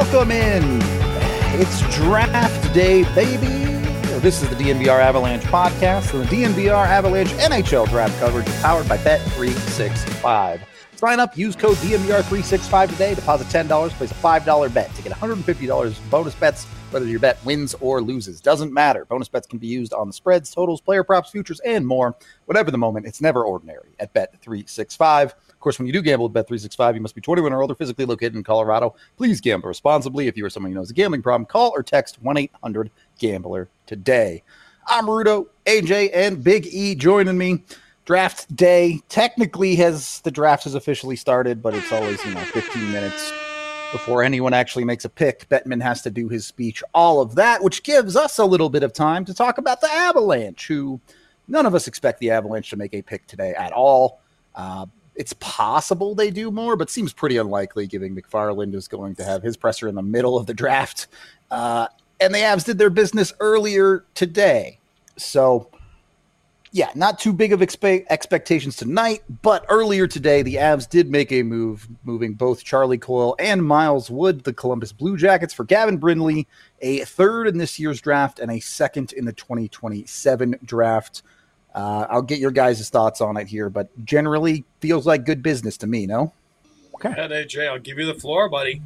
Welcome in. It's draft day, baby. This is the DNVR Avalanche podcast, and the DNVR Avalanche NHL draft coverage is powered by Bet365. Sign up, use code DNVR365 today, deposit $10, place a $5 bet to get $150 in bonus bets, whether your bet wins or loses. Doesn't matter. Bonus bets can be used on the spreads, totals, player props, futures, and more. Whatever the moment, it's never ordinary at Bet365. Of course, when you do gamble at Bet365, you must be 21 or older, physically located in Colorado. Please gamble responsibly. If you or someone you know has a gambling problem, call or text 1-800-GAMBLER today. I'm Rudo, AJ, and Big E joining me. Draft day technically the draft has officially started, but it's always, 15 minutes before anyone actually makes a pick. Bettman has to do his speech, all of that, which gives us a little bit of time to talk about the Avalanche, who none of us expect the Avalanche to make a pick today at all. It's possible they do more, but seems pretty unlikely, given McFarland is going to have his presser in the middle of the draft. And the Avs did their business earlier today. So, yeah, not too big of expectations tonight, but earlier today, the Avs did make a move, moving both Charlie Coyle and Miles Wood, the Columbus Blue Jackets, for Gavin Brindley, a third in this year's draft and a second in the 2027 draft. I'll get your guys' thoughts on it here, but generally feels like good business to me, no? Okay. Yeah, AJ, I'll give you the floor, buddy.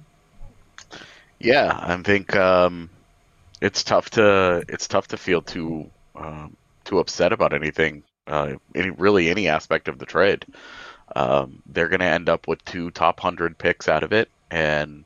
Yeah, I think it's tough to feel too upset about anything, any aspect of the trade. They're going to end up with 2 top 100 picks out of it, and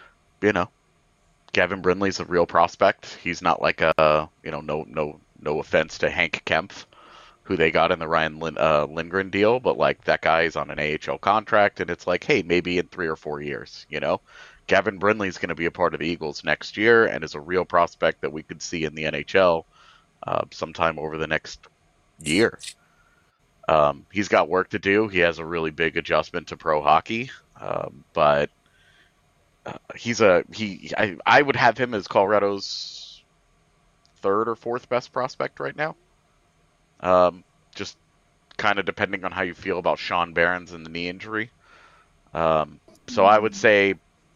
Gavin Brindley's a real prospect. He's not like no offense to Hank Kempf, who they got in the Ryan Lindgren deal, but like that guy is on an AHL contract, and it's like, hey, maybe in 3 or 4 years, Gavin Brindley's going to be a part of the Eagles next year and is a real prospect that we could see in the NHL sometime over the next year. He's got work to do. He has a really big adjustment to pro hockey, but I would have him as Colorado's 3rd or 4th best prospect right now. Just kind of depending on how you feel about Sean Barons and the knee injury. So I would say,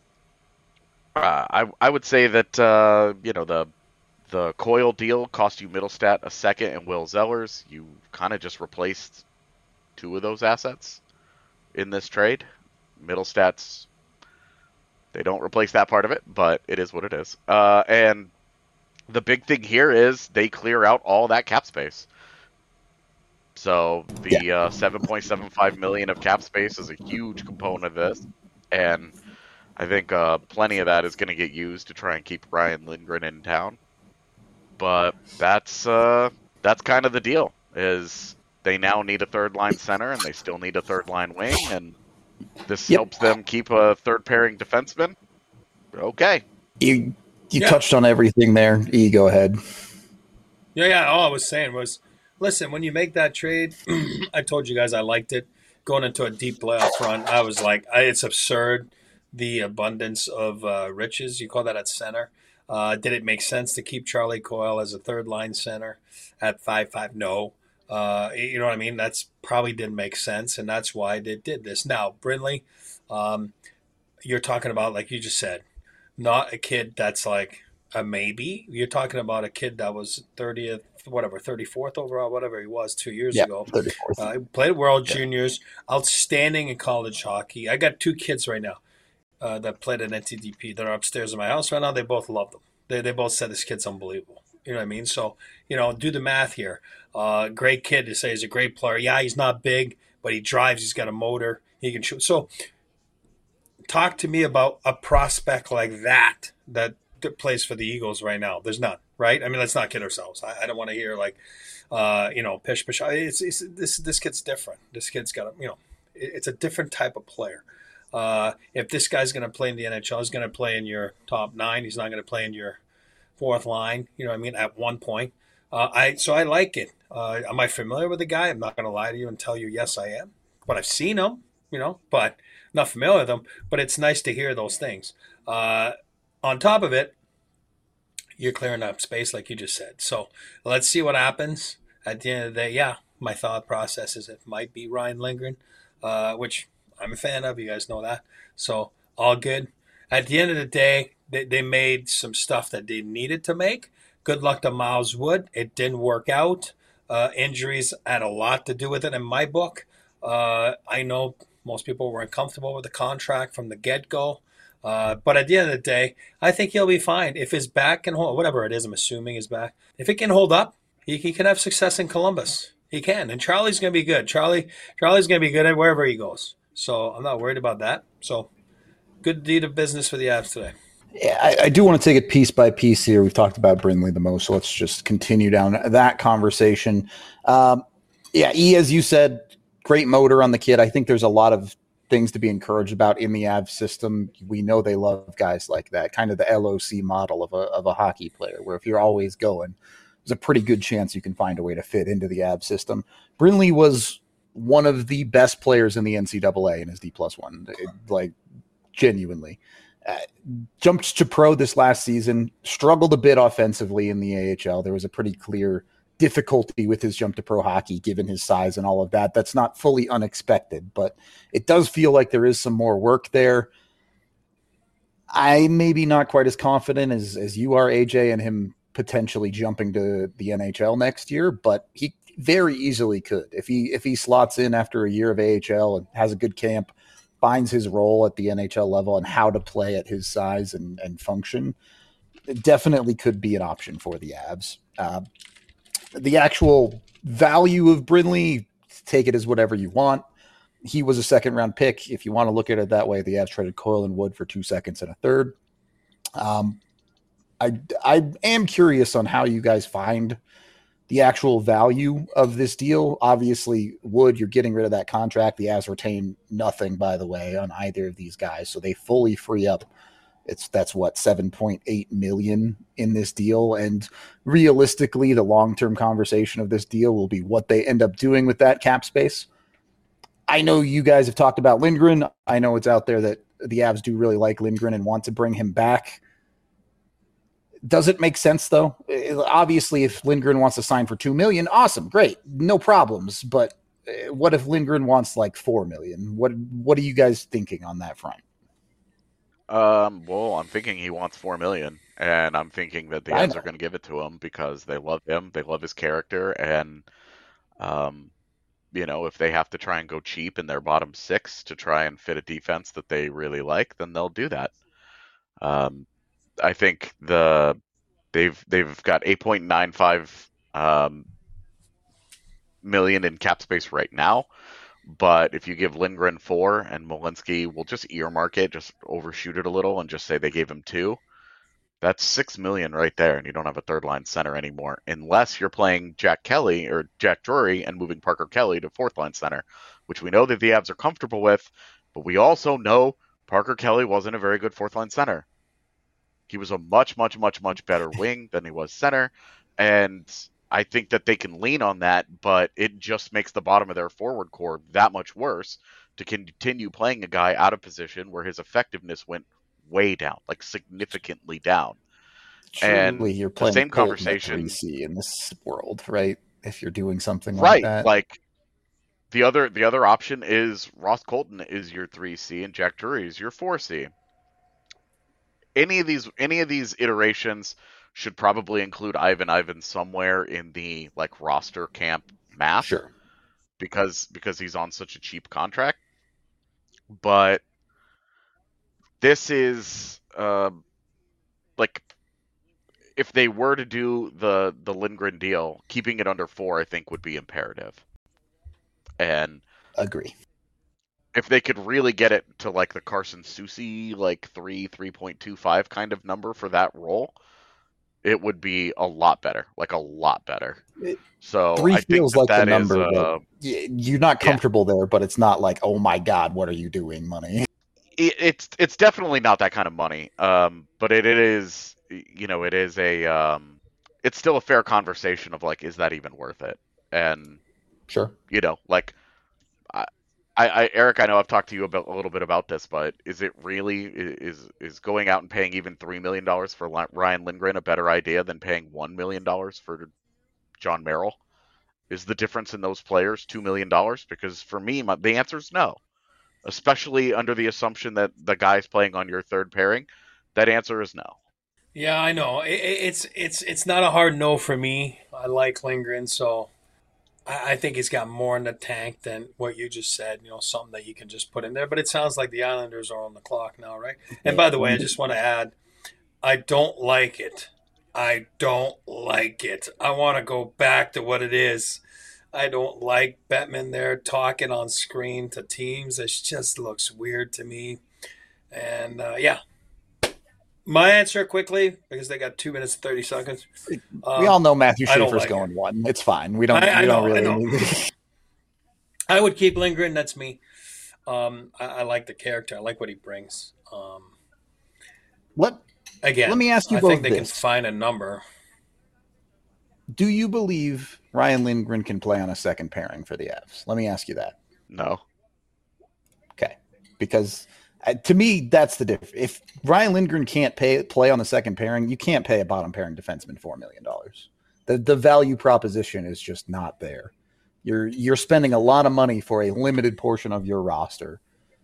that the Coyle deal cost you Middlestat a second and Will Zellers. You kind of just replaced 2 of those assets in this trade. Middlestat's, they don't replace that part of it, but it is what it is. And the big thing here is they clear out all that cap space. So the $7.75 million of cap space is a huge component of this, and I think plenty of that is going to get used to try and keep Ryan Lindgren in town. But that's kind of the deal. Is they now need a 3rd-line center, and they still need a 3rd-line wing, and this helps them keep a 3rd pairing defenseman. Okay, you touched on everything there. E, go ahead. Yeah. All I was saying was, listen, when you make that trade, I told you guys I liked it. Going into a deep playoff run, I was like, it's absurd, the abundance of riches. You call that at center. Did it make sense to keep Charlie Coyle as a 3rd-line center at 5'5"? No. You know what I mean? That's probably didn't make sense, and that's why they did this. Now, Brindley, you're talking about, like you just said, not a kid that's like a maybe. You're talking about a kid that was 34th overall, whatever he was 2 years ago. 34th. He played World Juniors, outstanding in college hockey. I got 2 kids right now that played at NTDP. They're upstairs in my house right now. They both loved him. They both said this kid's unbelievable. You know what I mean? So, do the math here. Great kid to say he's a great player. Yeah, he's not big, but he drives. He's got a motor. He can shoot. So talk to me about a prospect like that plays for the Eagles right now. There's none, right? I mean, let's not kid ourselves. I don't want to hear like, pish. This kid's different. This kid's got it's a different type of player. If this guy's going to play in the NHL, he's going to play in your top 9. He's not going to play in your 4th line. You know what I mean? At one point, I like it. Am I familiar with the guy? I'm not going to lie to you and tell you yes, I am. But I've seen him. But not familiar with him. But it's nice to hear those things. On top of it, you're clearing up space, like you just said. So let's see what happens. At the end of the day, yeah, my thought process is it might be Ryan Lindgren, which I'm a fan of. You guys know that. So all good. At the end of the day, they made some stuff that they needed to make. Good luck to Miles Wood. It didn't work out. Injuries had a lot to do with it in my book. I know most people were uncomfortable with the contract from the get go. But at the end of the day, I think he'll be fine. If his back can hold, whatever it is, I'm assuming his back, if it can hold up, he can have success in Columbus. He can. And Charlie's going to be good. Charlie's going to be good at wherever he goes. So I'm not worried about that. So good deed of business for the Avs today. Yeah, I do want to take it piece by piece here. We've talked about Brindley the most, so let's just continue down that conversation. Yeah, as you said, great motor on the kid. I think there's a lot of things to be encouraged about in the Avs system. We know they love guys like that, kind of the LOC model of a hockey player, where if you're always going, there's a pretty good chance you can find a way to fit into the Avs system. Brindley was one of the best players in the NCAA in his D+1, like genuinely. Jumped to pro this last season, struggled a bit offensively in the AHL. There was a pretty clear difficulty with his jump to pro hockey, given his size and all of that. That's not fully unexpected, but it does feel like there is some more work there. I maybe not quite as confident as you are, AJ, and him potentially jumping to the NHL next year, but he very easily could. If he slots in after a year of AHL and has a good camp, finds his role at the NHL level and how to play at his size and function, it definitely could be an option for the Avs. The actual value of Brindley, take it as whatever you want. He was a second-round pick. If you want to look at it that way, the Avs traded Coyle and Wood for 2 seconds and a third. I am curious on how you guys find the actual value of this deal. Obviously, Wood, you're getting rid of that contract. The Avs retain nothing, by the way, on either of these guys, so they fully free up. That's what, $7.8 million in this deal, and realistically, the long-term conversation of this deal will be what they end up doing with that cap space. I know you guys have talked about Lindgren. I know it's out there that the Avs do really like Lindgren and want to bring him back. Does it make sense, though? Obviously, if Lindgren wants to sign for $2 million, awesome, great, no problems. But what if Lindgren wants like $4 million? What are you guys thinking on that front? Well, I'm thinking he wants $4 million, and I'm thinking that the Avs are going to give it to him because they love him, they love his character, and if they have to try and go cheap in their bottom six to try and fit a defense that they really like, then they'll do that. I think they've got 8.95 million in cap space right now, but if you give Lindgren 4 and Malinsky will just earmark it, just overshoot it a little and just say they gave him 2, that's 6 million right there, and you don't have a third line center anymore unless you're playing Jack Kelly or Jack Drury and moving Parker Kelly to fourth line center, which we know that the Avs are comfortable with, but we also know Parker Kelly wasn't a very good fourth line center. He was a much, much, much, much better wing than he was center. And I think that they can lean on that, but it just makes the bottom of their forward core that much worse to continue playing a guy out of position where his effectiveness went way down, like significantly down. Surely and you're playing the same conversation 3C in this world, right? If you're doing something right, like that. Like the other option is Ross Colton is your 3C and Jack Drury is your 4C. Any of these iterations should probably include Ivan somewhere in the like roster camp math. Sure. Because he's on such a cheap contract. But this is like if they were to do the Lindgren deal, keeping it under 4 I think would be imperative. And agree. If they could really get it to like the Carson Soucy, like 3.25 kind of number for that role, it would be a lot better, like a lot better. So 3 I feels think like that the number. is, you're not comfortable there, but it's not like, oh my God, what are you doing, money? It's definitely not that kind of money. But it is, it is a, it's still a fair conversation of like, is that even worth it? And sure, like. Eric, I know I've talked to you a little bit about this, but is it really is going out and paying even $3 million for Ryan Lindgren a better idea than paying $1 million for John Merrill? Is the difference in those players $2 million? Because for me, the answer is no. especially under the assumption that the guy's playing on your third pairing? That answer is no. Yeah, I know. It's not a hard no for me. I like Lindgren, so I think he's got more in the tank than what you just said. Something that you can just put in there. But it sounds like the Islanders are on the clock now, right? And by the way, I just want to add, I don't like it. I don't like it. I want to go back to what it is. I don't like Bettman there talking on screen to teams. It just looks weird to me. And yeah, my answer quickly, because they got 2 minutes and 30 seconds. We all know Matthew Schaefer's going one. It's fine. We don't really. I would keep Lindgren. That's me. I like the character. I like what he brings. Again, let me ask you I both think they this. can find a number. Do you believe Ryan Lindgren can play on a second pairing for the Avs? Let me ask you that. No. Okay. Because to me, that's the difference. If Ryan Lindgren can't play on the second pairing, you can't pay a bottom pairing defenseman $4 million. The value proposition is just not there. You're spending a lot of money for a limited portion of your roster.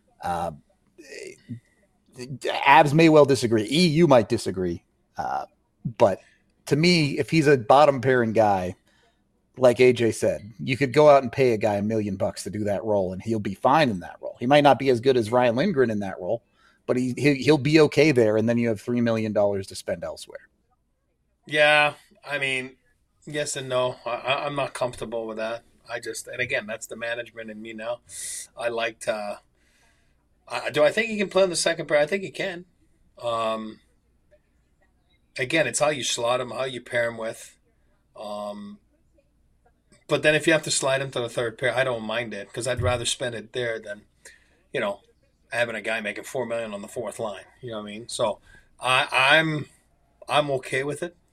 Avs may well disagree. You might disagree. But to me, if he's a bottom pairing guy, like AJ said, you could go out and pay a guy $1 million to do that role, and he'll be fine in that role. He might not be as good as Ryan Lindgren in that role, but he'll be okay there, and then you have $3 million to spend elsewhere. Yeah, I mean, yes and no. I'm not comfortable with that. And again, that's the management in me now. I like to. Do I think he can play on the second pair? I think he can. Again, it's how you slot him, how you pair him with. But then if you have to slide him to the third pair, I don't mind it, because I'd rather spend it there than, having a guy making $4 million on the fourth line. You know what I mean? So I'm okay with it.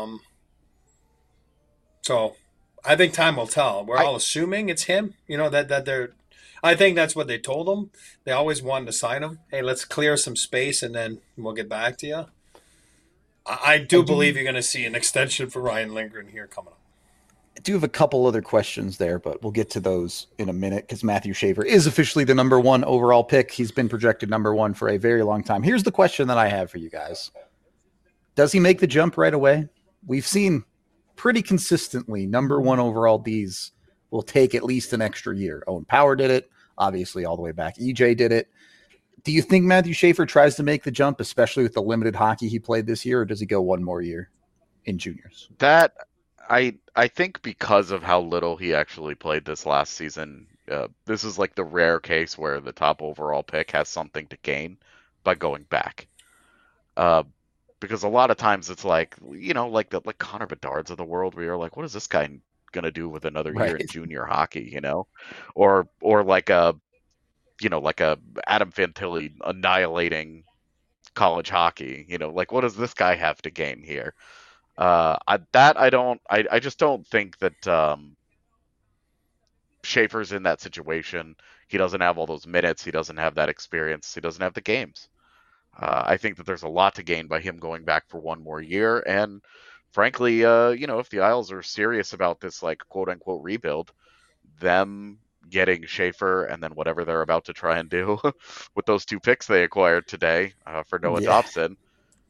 So I think time will tell. We're all assuming it's him. That they're. I think that's what they told him. They always wanted to sign him. Hey, let's clear some space and then we'll get back to you. I do believe you're going to see an extension for Ryan Lindgren here coming up. I do have a couple other questions there, but we'll get to those in a minute, because Matthew Schaefer is officially the number 1 overall pick. He's been projected number 1 for a very long time. Here's the question that I have for you guys. Does he make the jump right away? We've seen pretty consistently number 1 overall Ds will take at least an extra year. Owen Power did it, obviously all the way back. EJ did it. Do you think Matthew Schaefer tries to make the jump, especially with the limited hockey he played this year, or does he go one more year in juniors? That I think because of how little he actually played this last season, this is like the rare case where the top overall pick has something to gain by going back. Because a lot of times it's like, like Connor Bedard's of the world, where you're like, what is this guy gonna do with another year in junior hockey? Or like a Adam Fantilli annihilating college hockey. Like, what does this guy have to gain here? I just don't think that Schaefer's in that situation. He doesn't have all those minutes. He doesn't have that experience. He doesn't have the games. I think that there's a lot to gain by him going back for one more year. And frankly, if the Isles are serious about this, like, quote unquote rebuild, them getting Schaefer and then whatever they're about to try and do with those 2 picks they acquired today for Noah Dobson.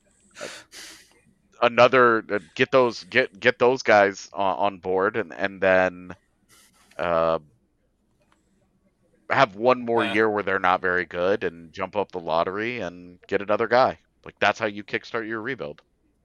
Get those guys on board and then have one more year where they're not very good and jump up the lottery and get another guy. Like, that's how you kickstart your rebuild.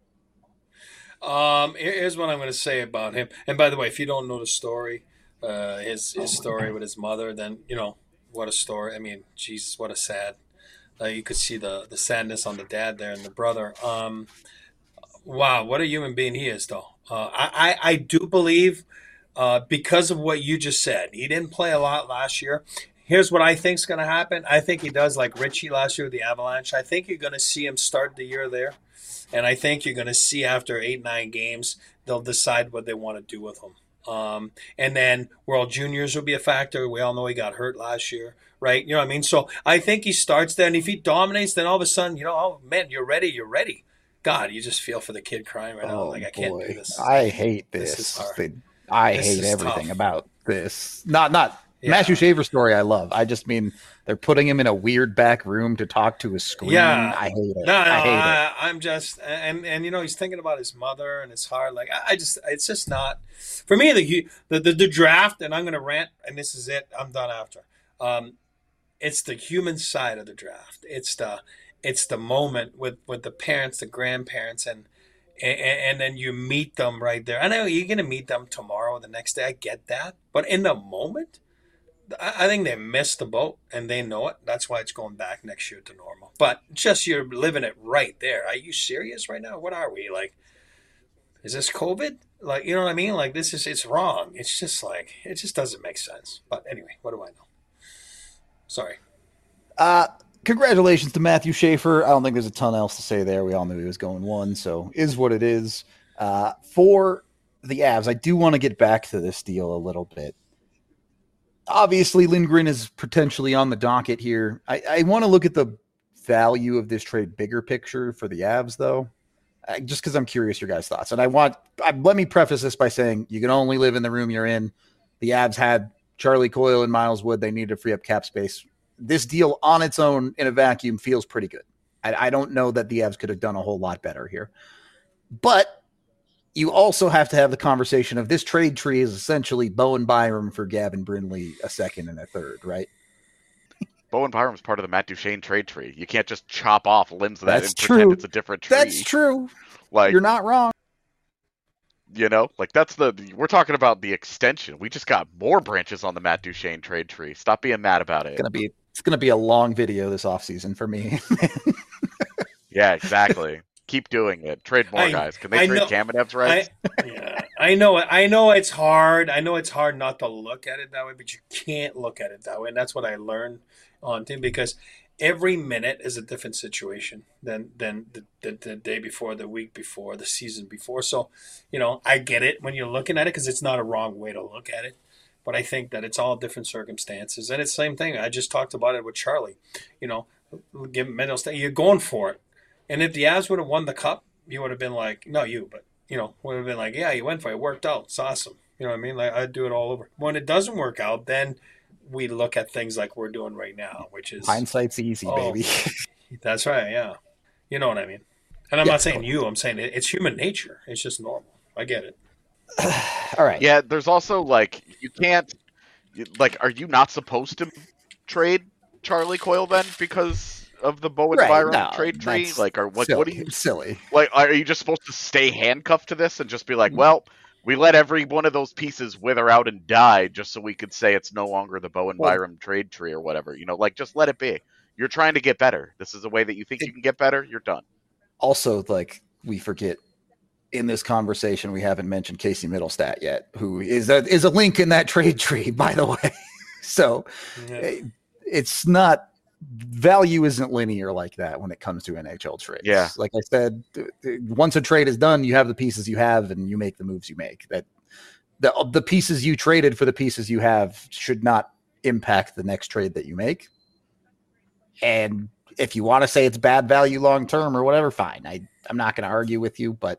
Here's what I'm going to say about him. And by the way, if you don't know the story, his story with his mother, then what a story. I mean, Jesus, what a sad. You could see the sadness on the dad there and the brother. Wow, what a human being he is, though. I do believe, because of what you just said, he didn't play a lot last year. Here's what I think is going to happen. I think he does like Richie last year with the Avalanche. I think you're going to see him start the year there. And I think you're going to see after 8-9 games, they'll decide what they want to do with him. And then World Juniors will be a factor. We all know he got hurt last year, right? You know what I mean? So I think he starts there. And if he dominates, then all of a sudden, oh, man, you're ready. God, you just feel for the kid crying right now. Like, I can't do this. I hate this. I hate everything about this. Not Matthew Shaver's story I love. I just mean they're putting him in a weird back room to talk to a screen. Yeah. I hate it. I hate it. I'm just, and he's thinking about his mother and his heart. Like, it's just not, for me, the draft, and I'm going to rant, and this is it. I'm done after. It's the human side of the draft. It's the moment with the parents, the grandparents, and then you meet them right there. I know you're going to meet them tomorrow or the next day. I get that. But in the moment, I think they missed the boat and they know it. That's why it's going back next year to normal. But just you're living it right there. Are you serious right now? What are we? Like, is this COVID? Like, you know what I mean? Like, it's wrong. It's just like, it just doesn't make sense. But anyway, what do I know? Sorry. Congratulations to Matthew Schaefer. I don't think there's a ton else to say there. We all knew he was going 1, so is what it is. For the Avs, I do want to get back to this deal a little bit. Obviously, Lindgren is potentially on the docket here. I want to look at the value of this trade bigger picture for the Avs, though, just because I'm curious your guys' thoughts. And let me preface this by saying you can only live in the room you're in. The Avs had Charlie Coyle and Miles Wood. They needed to free up cap space. This deal on its own in a vacuum feels pretty good. I don't know that the Avs could have done a whole lot better here. But you also have to have the conversation of this trade tree is essentially Bowen Byram for Gavin Brindley, a second and a third, right? Bowen Byram's part of the Matt Duchene trade tree. You can't just chop off limbs of that and true. Pretend it's a different tree. That's true. Like, you're not wrong. We're talking about the extension. We just got more branches on the Matt Duchene trade tree. Stop being mad about it. It's gonna be a long video this offseason for me. Yeah, exactly. Keep doing it. Trade more guys. Can they trade Kamenev's rights? I know it's hard. I know it's hard not to look at it that way, but you can't look at it that way. And that's what I learned on team, because every minute is a different situation than the day before, the week before, the season before. So, I get it when you're looking at it, because it's not a wrong way to look at it. But I think that it's all different circumstances. And it's the same thing. I just talked about it with Charlie. Give Middle State, you're going for it. And if the Avs would have won the cup, you would have been like, no, would have been like, yeah, you went for it. It worked out. It's awesome. You know what I mean? Like, I'd do it all over. When it doesn't work out, then we look at things like we're doing right now, which is hindsight's easy, baby. That's right. Yeah. You know what I mean? And I'm not saying you, I'm saying it's human nature. It's just normal. I get it. All right. Yeah. There's also you can't, are you not supposed to trade Charlie Coyle then because of the Bowen Byram trade tree? What are you silly? Are you just supposed to stay handcuffed to this and just be like, well, we let every one of those pieces wither out and die just so we could say it's no longer the Bowen Byram trade tree or whatever, just let it be. You're trying to get better. This is a way that you think you can get better. You're done. Also, we forget in this conversation, we haven't mentioned Casey Middlestat yet, who is a link in that trade tree, by the way. So it's not, value isn't linear like that when it comes to NHL trades. Yeah. Like I said, once a trade is done, you have the pieces you have and you make the moves you make. That the pieces you traded for the pieces you have should not impact the next trade that you make. And if you want to say it's bad value long-term or whatever, fine. I'm not going to argue with you, but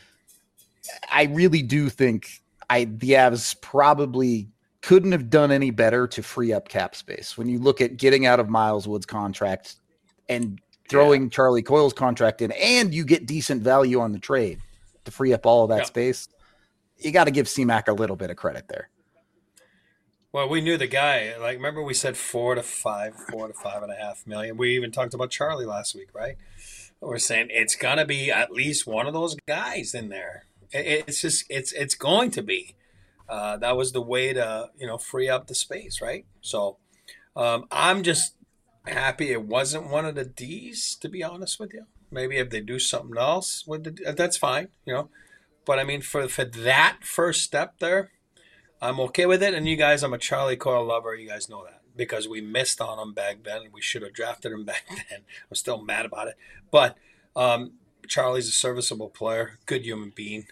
I really do think the Avs probably couldn't have done any better to free up cap space. When you look at getting out of Miles Wood's contract and throwing Charlie Coyle's contract in, and you get decent value on the trade to free up all of that space, you got to give C-Mac a little bit of credit there. Well, we knew the guy. Remember we said 4 to 5.5 million. We even talked about Charlie last week, right? We're saying it's gonna be at least one of those guys in there. It's going to be. That was the way to, free up the space, right? So I'm just happy it wasn't one of the D's, to be honest with you. Maybe if they do something else, that's fine, But, I mean, for that first step there, I'm okay with it. And you guys, I'm a Charlie Coyle lover. You guys know that because we missed on him back then. We should have drafted him back then. I'm still mad about it. But Charlie's a serviceable player, good human being.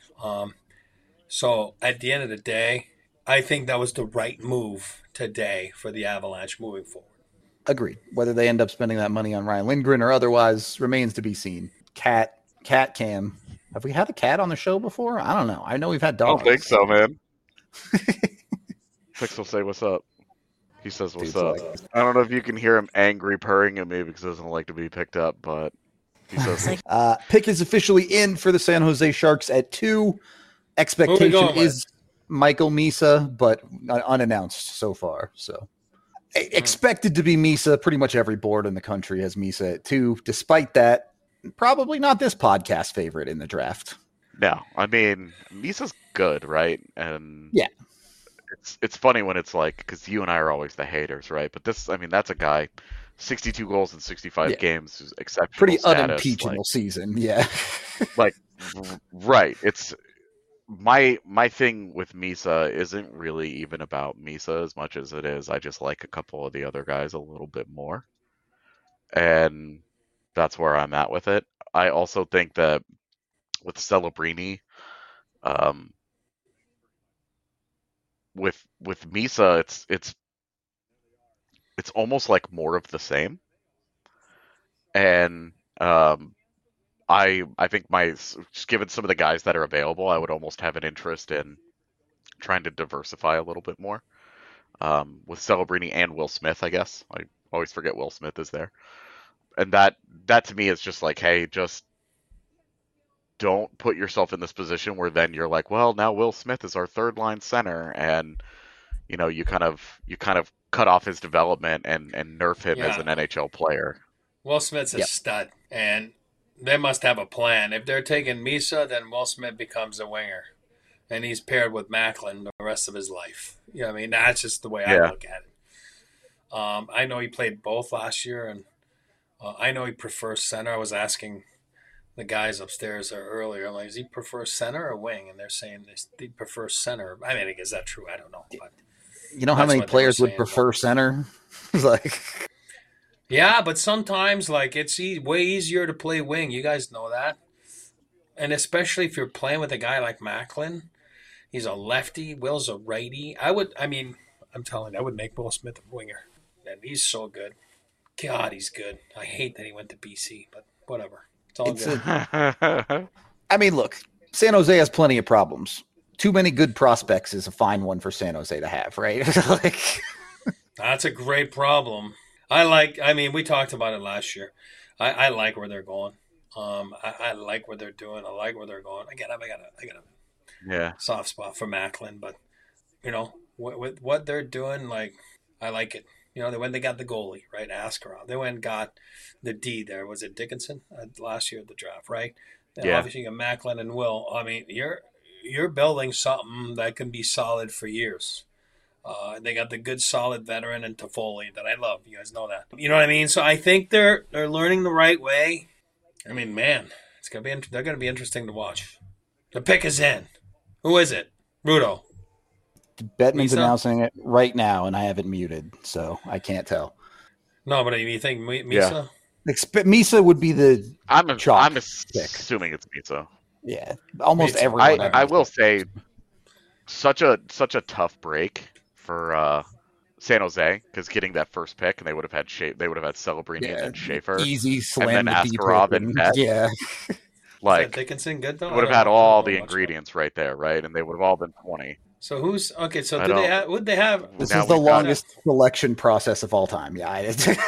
So at the end of the day, I think that was the right move today for the Avalanche moving forward. Agreed. Whether they end up spending that money on Ryan Lindgren or otherwise remains to be seen. Cat Cam. Have we had a cat on the show before? I don't know. I know we've had dogs. I don't think so, man. Fix will say what's up. He says, "What's Dude's up?" like, I don't know if you can hear him angry purring at me because he doesn't like to be picked up, but he says, pick is officially in for the San Jose Sharks at 2. Who are we Expectation going with? is Michael Misa, but unannounced so far. So expected to be Misa. Pretty much every board in the country has Misa at 2. Despite that, probably not this podcast favorite in the draft. "No, I mean Misa's good, right?" And Yeah. it's funny when it's like, because you and I are always the haters, right? But this, I mean, that's a guy, 62 goals in 65 games, who's exceptional Pretty status, unimpeachable season. Yeah. Right. It's my thing with Misa isn't really even about Misa as much as it is I just like a couple of the other guys a little bit more, and that's where I'm at with it. I also think that with Celebrini, with Misa, it's almost like more of the same, and I think just given some of the guys that are available, I would almost have an interest in trying to diversify a little bit more. With Celebrini and Will Smith, I guess. I always forget Will Smith is there. And that to me is just like, hey, just don't put yourself in this position where then you're like, well, now Will Smith is our third line center, and you kind of cut off his development and nerf him as an NHL player. Will Smith's a stud, and they must have a plan. If they're taking Misa, then Will Smith becomes a winger, and he's paired with Macklin the rest of his life. You know what I mean? That's just the way I look at it. I know he played both last year, and I know he prefers center. I was asking the guys upstairs earlier, like, does he prefer center or wing? And they're saying they prefer center. I mean, is that true? I don't know. But you know how many players would prefer center? Like, yeah, but sometimes, like, it's way easier to play wing. You guys know that. And especially if you're playing with a guy like Macklin. He's a lefty. Will's a righty. I'm telling you, I would make Will Smith a winger. And he's so good. God, he's good. I hate that he went to BC, but whatever. It's all good. I mean, look, San Jose has plenty of problems. Too many good prospects is a fine one for San Jose to have, right? That's a great problem. We talked about it last year. I like where they're going. I like what they're doing. I like where they're going. Again, I got a soft spot for Macklin, but with what they're doing, like, I like it. They got the goalie, right? Askarov. They went and got the D there. Was it Dickinson last year at the draft, right? And obviously you got Macklin and Will. I mean, you're building something that can be solid for years. They got the good, solid veteran in Toffoli that I love. You guys know that. You know what I mean? So I think they're learning the right way. I mean, man, they're gonna be interesting to watch. The pick is in. Who is it? Rudo. Bettman's announcing it right now, and I have it muted, so I can't tell. No, but you think Misa? Yeah. Misa would be the I'm assuming it's Misa. Yeah, almost everyone. I will say, such a tough break for San Jose, because getting that first pick, and they would have had Celebrini and then Schaefer, easy slam, and then Askarov and net. Yeah. Like, Dickinson good though? Would have had all the ingredients right there, right? And they would have all been 20. So who's okay? So would they have? This is the longest selection process of all time. Yeah.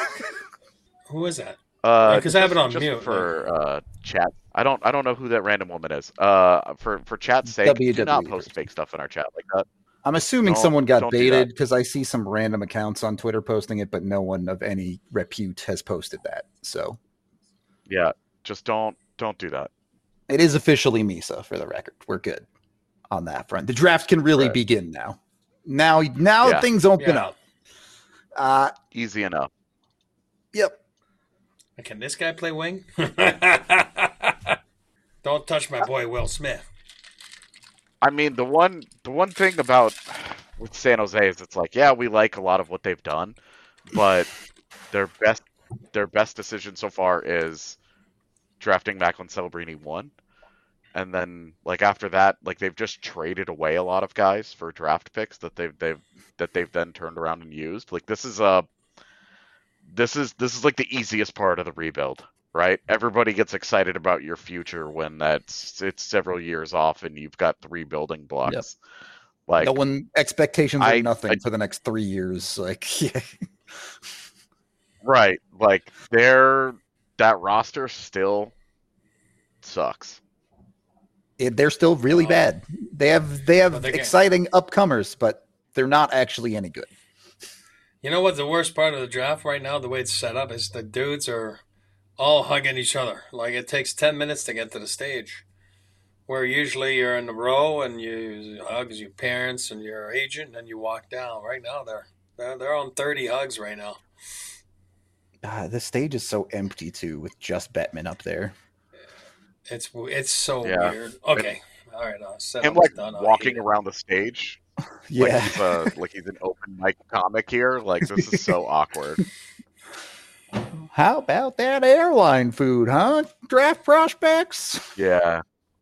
Who is that? Because I have it on mute for chat. I don't know who that random woman is. For chat's sake, do not post fake stuff in our chat like that. I'm assuming someone got baited because I see some random accounts on Twitter posting it, but no one of any repute has posted that. So yeah, just don't do that. It is officially Misa, for the record. We're good on that front. The draft can really begin now. Now things open up. Easy enough. Yep. Can this guy play wing? Don't touch my boy Will Smith. I mean, the one thing about with San Jose is it's like, yeah, we like a lot of what they've done, but their best decision so far is drafting Macklin Celebrini 1. And then, like, after that, like, they've just traded away a lot of guys for draft picks that they've then turned around and used. Like, this is like the easiest part of the rebuild, right? Everybody gets excited about your future when it's several years off and you've got 3 building blocks. Yep. Like no one expectations are I nothing for the next 3 years. Like, yeah. right, like that roster still sucks. They're still really bad. They have But exciting upcomers, but they're not actually any good. you know what the worst part of the draft right now, the way it's set up, is the dudes are all hugging each other. Like it takes 10 minutes to get to the stage. Where usually you're in the row and you hug your parents and your agent, and then you walk down. Right now they're on 30 hugs right now. The stage is so empty too, with just Bettman up there. It's so weird. Okay, all right. Him like walking around the stage. Yeah, like he's an open mic comic here. Like this is so awkward. How about that airline food, huh? Draft prospects. Yeah.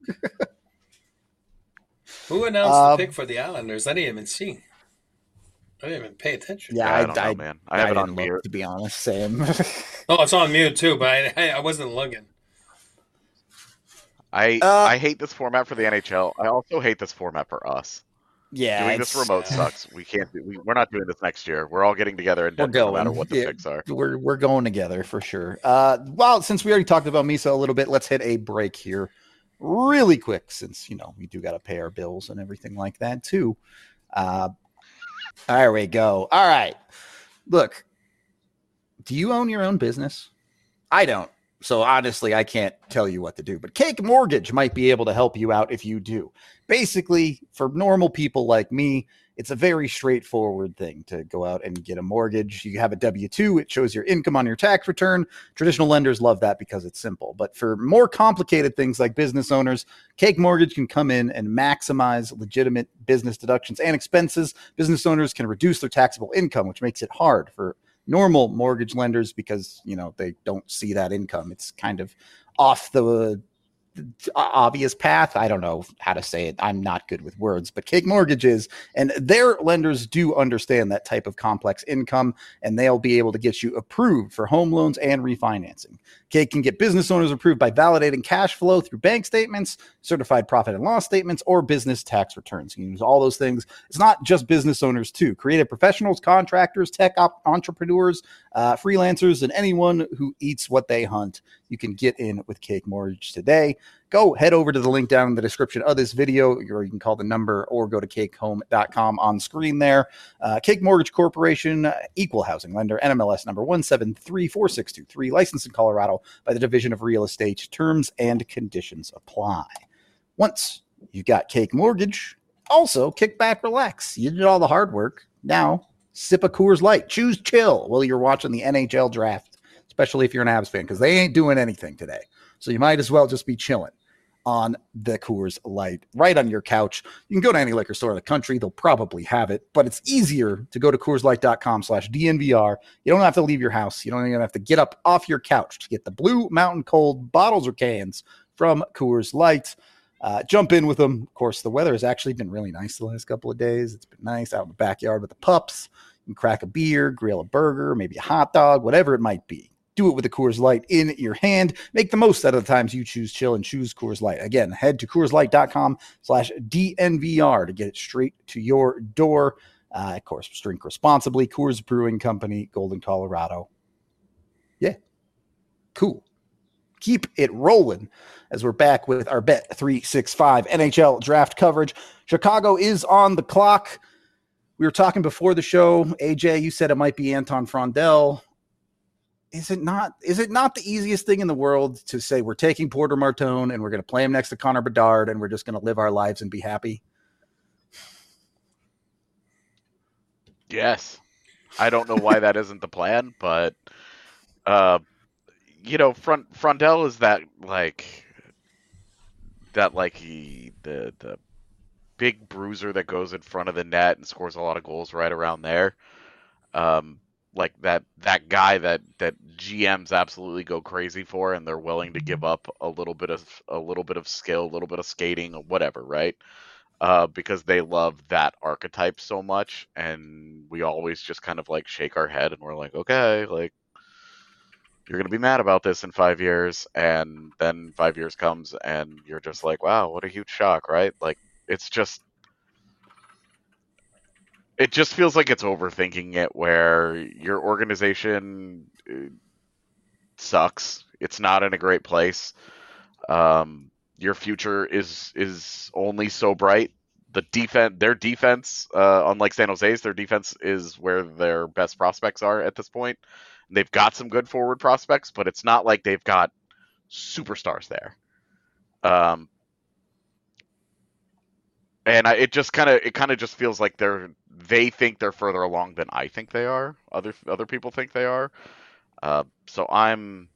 Who announced the pick for the Islanders? I didn't even see. I didn't even pay attention. Yeah, I don't know, man. I have it on mute. To be honest, same. Oh, it's on mute too, but I wasn't looking. I hate this format for the NHL. I also hate this format for us. Yeah, doing this remote sucks. We can't. We're not doing this next year. We're all getting together in Denver, no matter what the picks are. We're going together for sure. Well, since we already talked about Misa a little bit, let's hit a break here, really quick, since we do got to pay our bills and everything like that too. There we go. All right. Look, do you own your own business? I don't. So honestly, I can't tell you what to do, but Cake Mortgage might be able to help you out if you do. Basically, for normal people like me, it's a very straightforward thing to go out and get a mortgage. You have a W-2. It shows your income on your tax return. Traditional lenders love that because it's simple. But for more complicated things like business owners, Cake Mortgage can come in and maximize legitimate business deductions and expenses. Business owners can reduce their taxable income, which makes it hard for normal mortgage lenders because, they don't see that income. It's kind of off the obvious path. I don't know how to say it. I'm not good with words, but Cake Mortgage is, and their lenders do understand that type of complex income, and they'll be able to get you approved for home loans and refinancing. Cake can get business owners approved by validating cash flow through bank statements, certified profit and loss statements, or business tax returns. You can use all those things. It's not just business owners too. Creative professionals, contractors, tech entrepreneurs, freelancers, and anyone who eats what they hunt. You can get in with Cake Mortgage today. Go head over to the link down in the description of this video, or you can call the number or go to cakehome.com on screen there. Cake Mortgage Corporation, equal housing lender, NMLS number 1734623, licensed in Colorado by the Division of Real Estate. Terms and conditions apply. Once you got Cake Mortgage, also kick back, relax. You did all the hard work. Now, sip a Coors Light. Choose chill while you're watching the NHL draft, especially if you're an Avs fan, because they ain't doing anything today. So you might as well just be chilling on the Coors Light right on your couch. You can go to any liquor store in the country. They'll probably have it, but it's easier to go to CoorsLight.com/DNVR. You don't have to leave your house. You don't even have to get up off your couch to get the Blue Mountain Cold bottles or cans from Coors Light. Jump in with them. Of course, the weather has actually been really nice the last couple of days. It's been nice out in the backyard with the pups. You can crack a beer, grill a burger, maybe a hot dog, whatever it might be. Do it with a Coors Light in your hand. Make the most out of the times you choose chill and choose Coors Light. Again, head to CoorsLight.com/DNVR to get it straight to your door. Of course, drink responsibly. Coors Brewing Company, Golden, Colorado. Yeah, cool. Keep it rolling as we're back with our Bet365 NHL draft coverage. Chicago is on the clock. We were talking before the show. AJ, you said it might be Anton Frondell. Is it not the easiest thing in the world to say we're taking Porter Martone and we're going to play him next to Connor Bedard and we're just going to live our lives and be happy? Yes. I don't know why that isn't the plan, but Frondell is the big bruiser that goes in front of the net and scores a lot of goals right around there. Like that guy that GMs absolutely go crazy for, and they're willing to give up a little bit of skill, a little bit of skating, or whatever, right? Because they love that archetype so much, and we always just kind of like shake our head and we're like, okay, like you're gonna be mad about this in 5 years, and then 5 years comes and you're just like, wow, what a huge shock, right? Like it's just It just feels like it's overthinking it, where your organization sucks. It's not in a great place. Your future is only so bright. Their defense, unlike San Jose's, their defense is where their best prospects are at this point. They've got some good forward prospects, but it's not like they've got superstars there. And it kind of just feels like they think they're further along than I think they are. Other people think they are. So I'm.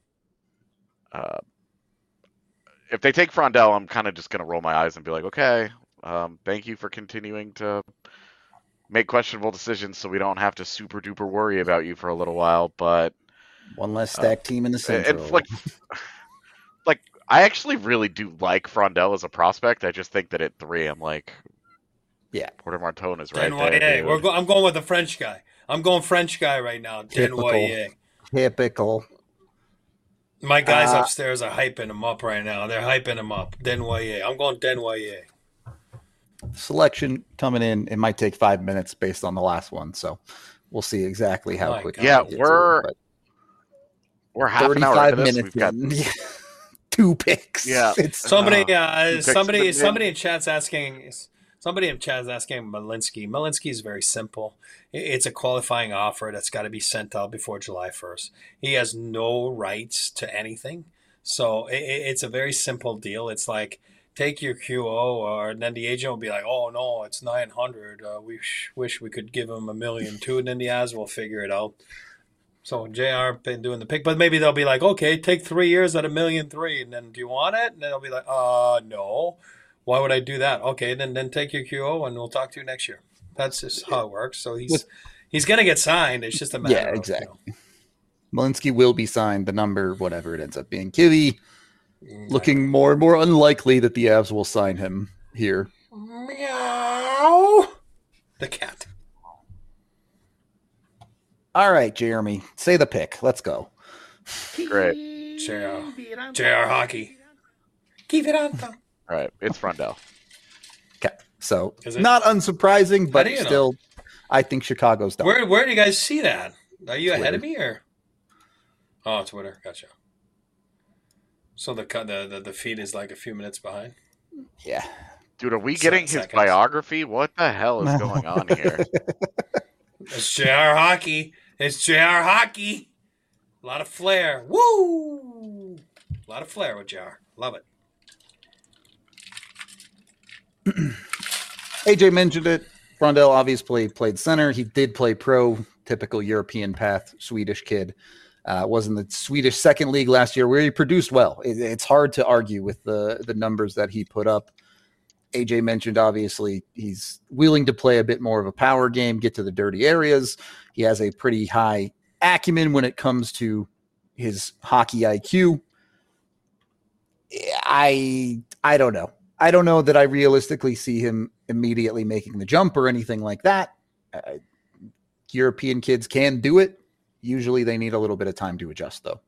If they take Frondell, I'm kind of just gonna roll my eyes and be like, okay, thank you for continuing to make questionable decisions, so we don't have to super duper worry about you for a little while. But one less stacked team in the Central. And like I actually really do like Frondell as a prospect. I just think that at 3, I'm like, yeah, Porter Martone is right Denvoyer. there. I'm going with the French guy. I'm going French guy right now. Denvoyer. Typical. My guys upstairs are hyping him up right now. They're hyping him up. Denvoyer. I'm going Denvoyer. Selection coming in. It might take 5 minutes based on the last one, so we'll see exactly how quick. Yeah, we're half an hour into this. We've got 2 picks. Yeah, somebody in chat's asking. Somebody in chat's asking Malinsky. Malinsky is very simple. It's a qualifying offer that's got to be sent out before July 1st. He has no rights to anything, so it's a very simple deal. It's like, take your QO, and then the agent will be like, "Oh no, it's 900. We wish we could give him $1 million too," and then the Avs will figure it out. So JR been doing the pick, but maybe they'll be like, "Okay, take 3 years at $1.3 million, and then do you want it?" And then they'll be like, no. Why would I do that? Okay, then take your QO, and we'll talk to you next year. That's just how it works. So he's going to get signed. It's just a matter. Yeah, exactly. Malinsky will be signed. The number, whatever it ends up being, Kivy. Looking more and more unlikely that the Avs will sign him here. Meow. The cat. All right, Jeremy. Say the pick. Let's go. Great. JR Hockey. Keep it on. All right. It's Frondell. Okay. So, not unsurprising, but still, I think Chicago's done. Where do you guys see that? Are you ahead of me or? Oh, Twitter. Gotcha. So the feed is like a few minutes behind. Yeah, dude, are we getting his biography? What the hell is going on here? It's JR Hockey. It's JR Hockey. A lot of flair. Woo! A lot of flair with JR. Love it. AJ mentioned it. Frondell obviously played center. He did play pro, typical European path, Swedish kid. Was in the Swedish second league last year where he produced well. It's hard to argue with the numbers that he put up. AJ mentioned, obviously, he's willing to play a bit more of a power game, get to the dirty areas. He has a pretty high acumen when it comes to his hockey IQ. I don't know. I don't know that I realistically see him immediately making the jump or anything like that. European kids can do it. Usually they need a little bit of time to adjust, though.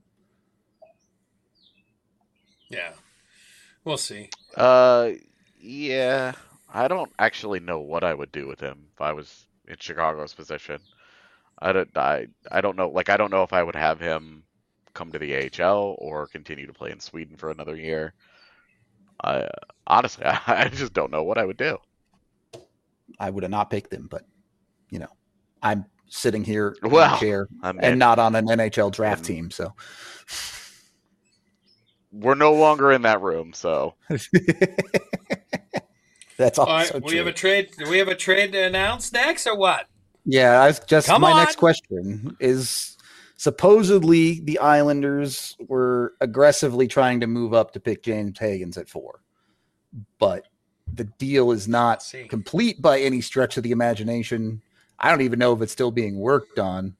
Yeah. We'll see. Yeah. I don't actually know what I would do with him if I was in Chicago's position. I don't know. Like, I don't know if I would have him come to the AHL or continue to play in Sweden for another year. Honestly, I just don't know what I would do. I would have not picked him, but, I'm sitting here in a chair and not on an NHL draft team, so we're no longer in that room. So that's also all right. True. We have a trade. Do we have a trade to announce next, or what? Yeah, next question is: supposedly the Islanders were aggressively trying to move up to pick James Higgins at 4, but the deal is not complete by any stretch of the imagination. I don't even know if it's still being worked on.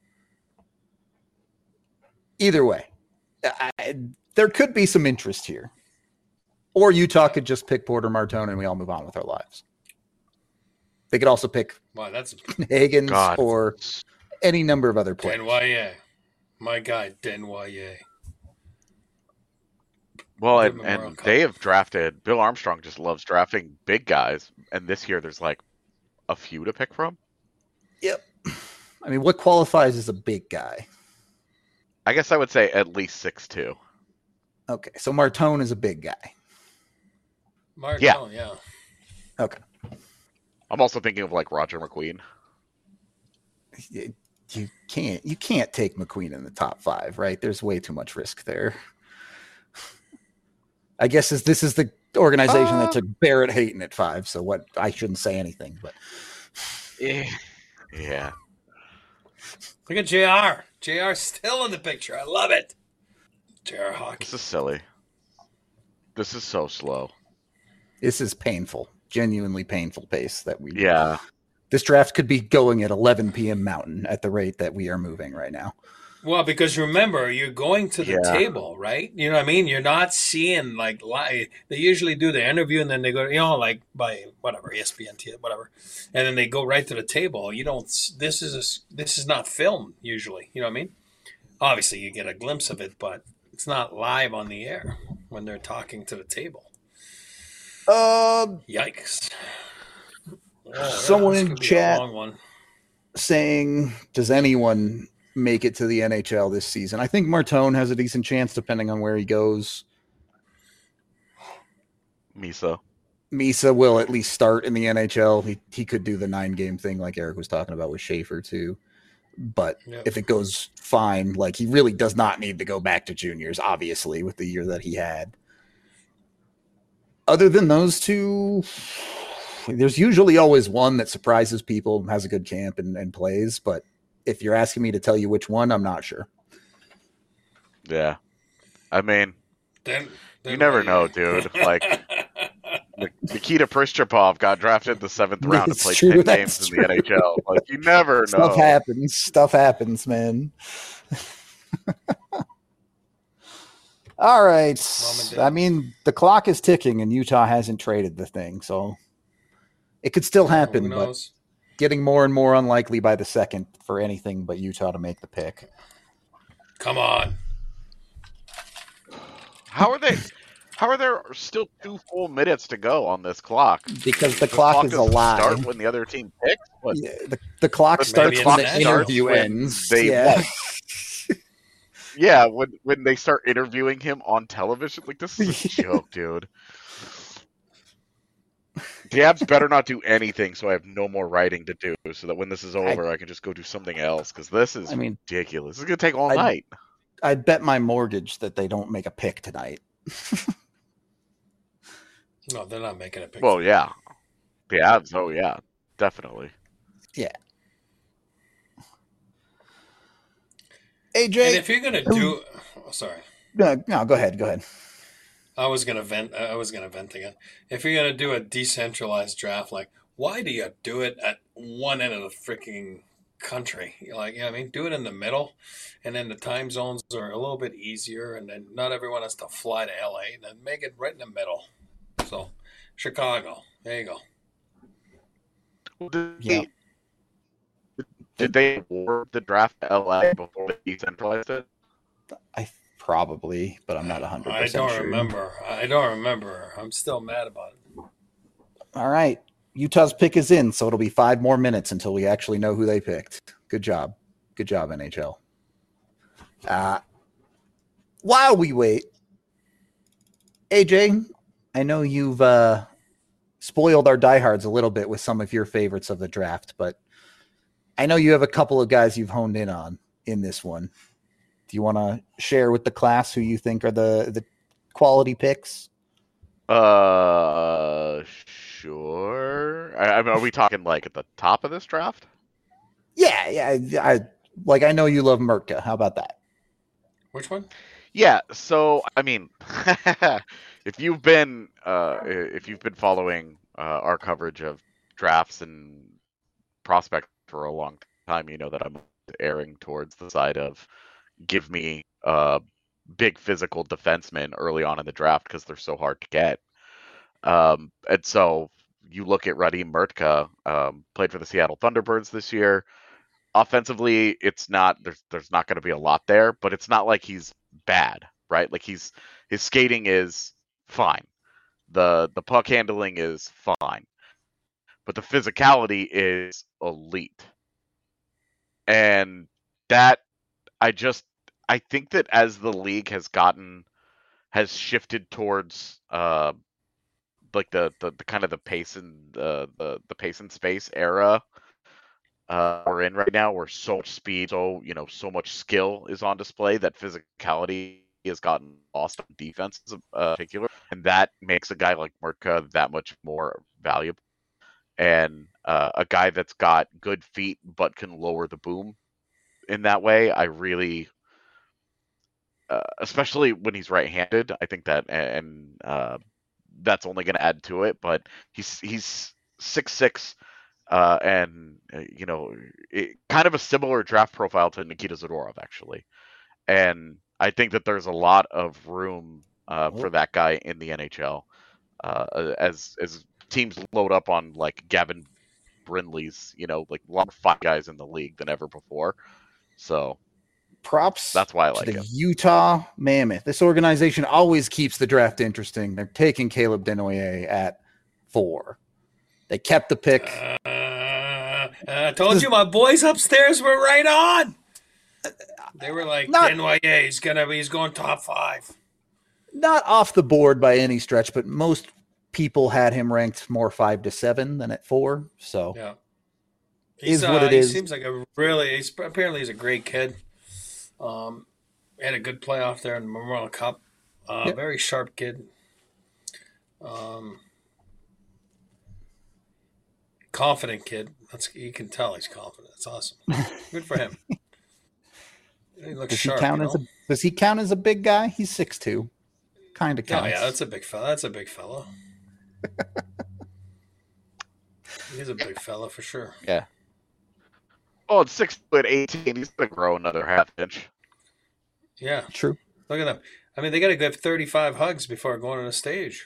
Either way, there could be some interest here. Or Utah could just pick Porter Martone and we all move on with our lives. They could also pick Higgins or any number of other players. Denvoyer. My guy, Denvoyer. Well, and they have drafted, Bill Armstrong just loves drafting big guys. And this year there's like a few to pick from. Yep. I mean, what qualifies as a big guy? I guess I would say at least 6'2". Okay, so Martone is a big guy. Martone, yeah. Okay. I'm also thinking of like Roger McQueen. You can't take McQueen in the top 5, right? There's way too much risk there. I guess this is the organization that took Barrett Hayton at 5, so what? I shouldn't say anything, but yeah. Look at JR. JR's still in the picture. I love it. JR Hockey. This is silly. This is so slow. This is painful, genuinely painful pace that we. Yeah. This draft could be going at 11 p.m. Mountain at the rate that we are moving right now. Well, because remember, you're going to the table, right? You know what I mean? You're not seeing like live. They usually do the interview and then they go, like by whatever ESPN, whatever, and then they go right to the table. You don't. This is not filmed usually. You know what I mean? Obviously, you get a glimpse of it, but it's not live on the air when they're talking to the table. Yikes! Someone in chat saying, "Does anyone make it to the NHL this season?" I think Martone has a decent chance, depending on where he goes. Misa will at least start in the NHL. He could do the 9-game thing, like Eric was talking about with Schaefer too. But if it goes fine, like he really does not need to go back to juniors, obviously, with the year that he had. Other than those two, there's usually always one that surprises people, has a good camp and plays. But if you're asking me to tell you which one, I'm not sure. Yeah. I mean, you never know, dude. Like, Nikita Prischapov got drafted in the 7th round and played 10 games in the NHL. Like, you never know. Stuff happens, man. All right. I mean, the clock is ticking and Utah hasn't traded the thing, so it could still happen, but getting more and more unlikely by the second for anything but Utah to make the pick. Come on. How are there still 2 full minutes to go on this clock? Because the clock is a lie. Start when the other team picks? Yeah, the clock starts when the interview ends. Yeah, when they start interviewing him on television. Like, this is a joke, dude. The Abs better not do anything so I have no more writing to do, so that when this is over, I can just go do something else, because this is ridiculous. This is going to take all night. I'd bet my mortgage that they don't make a pick tonight. No, they're not making a pick. Well, yeah. The Abs, definitely. Yeah. AJ, and if you're gonna do, sorry. No, go ahead. I was gonna vent again. If you're gonna do a decentralized draft, like, why do you do it at one end of the freaking country? Like, you know what I mean? Do it in the middle, and then the time zones are a little bit easier, and then not everyone has to fly to LA. And then make it right in the middle. So, Chicago, there you go. Did they award the draft to LA before they decentralized it? Probably, but I'm not 100% sure. I don't remember. I'm still mad about it. All right. Utah's pick is in, so it'll be 5 more minutes until we actually know who they picked. Good job. Good job, NHL. While we wait, AJ, I know you've spoiled our diehards a little bit with some of your favorites of the draft, but I know you have a couple of guys you've honed in on in this one. Do you want to share with the class who you think are the quality picks? Sure. I mean, are we talking like at the top of this draft? Yeah. I know you love Mertka. How about that? Which one? Yeah. So, I mean, if you've been following our coverage of drafts and prospects for a long time, you know that I'm erring towards the side of give me big physical defensemen early on in the draft because they're so hard to get. And so you look at Radim Mertka, played for the Seattle Thunderbirds this year. Offensively, it's not there's not going to be a lot there, but it's not like he's bad, right? Like his skating is fine. The puck handling is fine. But the physicality is elite. And that I think that as the league has shifted towards like the kind of the pace and the pace and space era we're in right now, where so much speed, so much skill is on display, that physicality has gotten lost on defense in particular, and that makes a guy like Murka that much more valuable. And a guy that's got good feet but can lower the boom in that way, I really, especially when he's right-handed, I think that, and that's only going to add to it. But he's 6'6", and kind of a similar draft profile to Nikita Zadorov, actually. And I think that there's a lot of room for that guy in the NHL as teams load up on like Gavin Brindley's, like a lot of 5 guys in the league than ever before. So props. That's why I to like the him. Utah Mammoth. This organization always keeps the draft interesting. They're taking Caleb Desnoyers at 4. They kept the pick. I told you my boys upstairs were right on. They were like, Desnoyers, he's going top 5. Not off the board by any stretch, but most people had him ranked more 5 to 7 than at 4. So yeah, is what it is. He seems like apparently he's a great kid. Had a good playoff there in the Memorial Cup. Very sharp kid. Confident kid. You can tell he's confident. That's awesome. Good for him. He looks sharp. Does he count as a big guy? He's 6'2". Kind of counts. Oh, yeah, that's a big fella. That's a big fella. He's a big fella for sure. Yeah. Oh, it's 6'18". He's gonna grow another half inch. Yeah. True. Look at them. I mean, they got to give 35 hugs before going on the stage.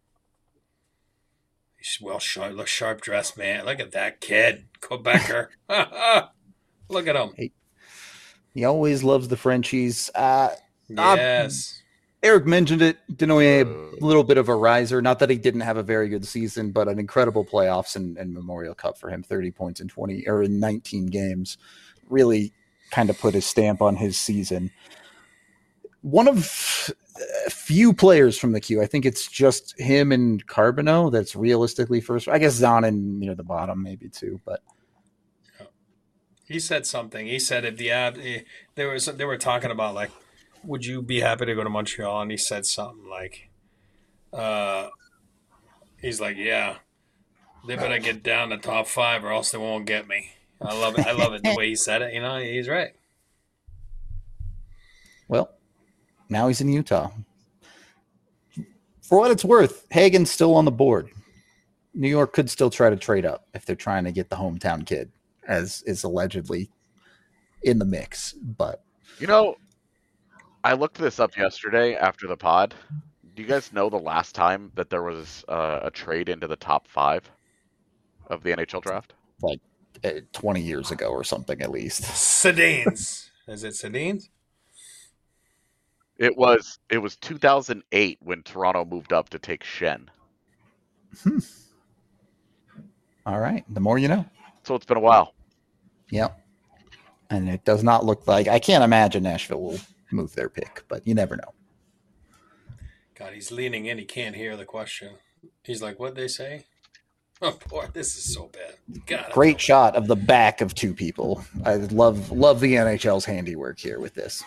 He's looks sharp dressed, man. Look at that kid, Quebecer. Look at him. He always loves the Frenchies. Yes. Eric mentioned it. Desnoyers, a little bit of a riser. Not that he didn't have a very good season, but an incredible playoffs and Memorial Cup for him. 30 points in 19 games. Really kind of put his stamp on his season. One of a few players from the queue. I think it's just him and Carbonneau that's realistically first. I guess Zonin near the bottom, maybe too. But he said something. He said if they were talking about like, would you be happy to go to Montreal? And he said something like, he's like, yeah, they better get down to top 5 or else they won't get me. I love it. I love it the way he said it. He's right. Well, now he's in Utah. For what it's worth, Hagen's still on the board. New York could still try to trade up if they're trying to get the hometown kid, as is allegedly in the mix. But I looked this up yesterday after the pod. Do you guys know the last time that there was a trade into the top 5 of the NHL draft? Like 20 years ago or something, at least. Sedins. Is it Sedins? It was 2008 when Toronto moved up to take Shen. All right. The more you know. So it's been a while. Yep. And it does not look like, I can't imagine Nashville will move their pick, but you never know. God, he's leaning in. He can't hear the question. He's like, what'd they say? Oh, boy, this is so bad. God, great shot of the back of 2 people. I love the NHL's handiwork here with this.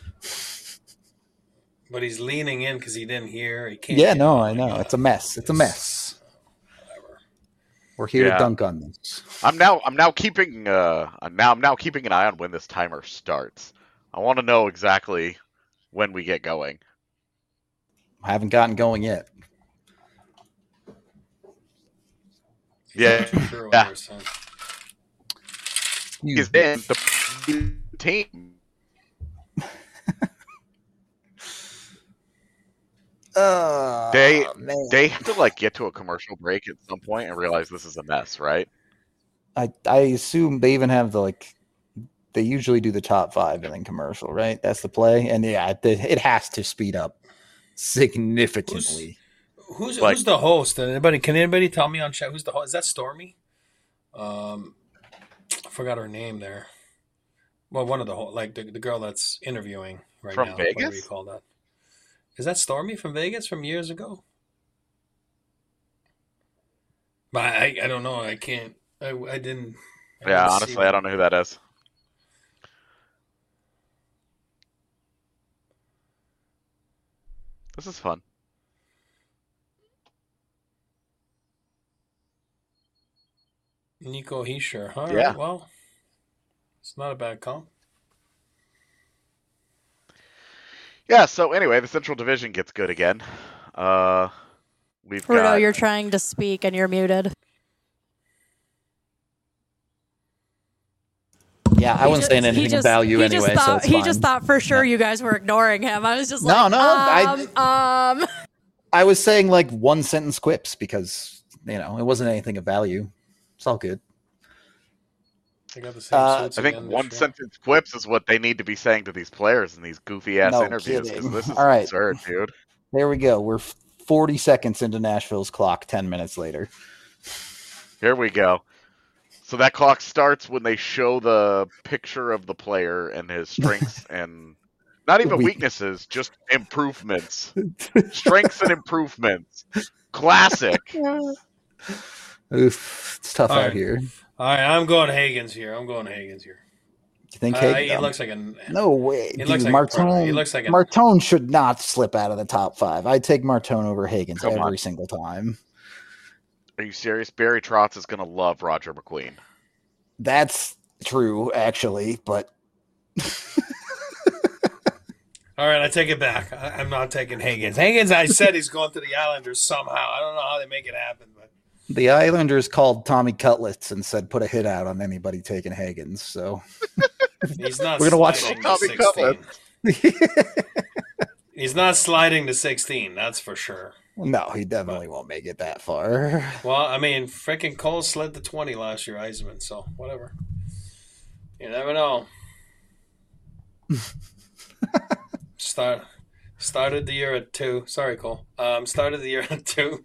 But he's leaning in because he didn't hear. He can't. Yeah, no, I know. It's a mess. It's a mess. Whatever. We're here to dunk on this. I'm now keeping an eye on when this timer starts. I want to know exactly when we get going. I haven't gotten going yet. Yeah. Sure Yeah. He's in the team. They have to like get to a commercial break at some point and realize this is a mess, right? I assume they even have they usually do the top 5 and then commercial, right? That's the play. And yeah, it has to speed up significantly. Who's the host? Can anybody tell me on chat who's the host? Is that Stormy? I forgot her name there. Well, one of the whole, like the girl that's interviewing right From now. Whatever you Vegas? call that. Is that Stormy from Vegas from years ago? But I don't know. I can't. I didn't. I Yeah, didn't see honestly, I them. don't know who that is. This is fun. Nico Heischer. All Yeah. right. Well, it's not a bad comp. Yeah, so anyway, the Central Division gets good again. We've Rudo, got you're trying to speak and you're muted. Yeah, I wasn't saying anything of value anyway. So it's He just fine. thought for sure you guys were ignoring him. I was just No, like, no, I was saying like one sentence quips because it wasn't anything of value. It's all good. They got the same suits I think again one this year. sentence quips is what they need to be saying to these players in these goofy ass No interviews because kidding. this is All right. absurd, dude. There we go. We're 40 seconds into Nashville's clock. 10 minutes later. Here we go. So that clock starts when they show the picture of the player and his strengths and not even weaknesses, just improvements. Strengths and improvements. Classic. Oof, it's tough All out right. here. All right, I'm going Hagens here. You think He Hagen? looks like a. No way. He Dude, looks like Martone, he looks like a. Martone should not slip out of the top 5. I'd take Martone over Higgins Come every on. single time. Are you serious? Barry Trotz is going to love Roger McQueen. That's true, actually, but All right, I take it back. I'm not taking Hagens. Hagens, I said he's going to the Islanders somehow. I don't know how they make it happen, but the Islanders called Tommy Cutlets and said put a hit out on anybody taking Higgins. So he's not. We're gonna watch sliding to Tommy 16. He's not sliding to 16. That's for sure. no, he definitely won't make it that far. Well, I mean, freaking Cole slid to 20 last year, Eisman. So whatever. You never know. Started the year at 2. Sorry, Cole. Started the year at 2.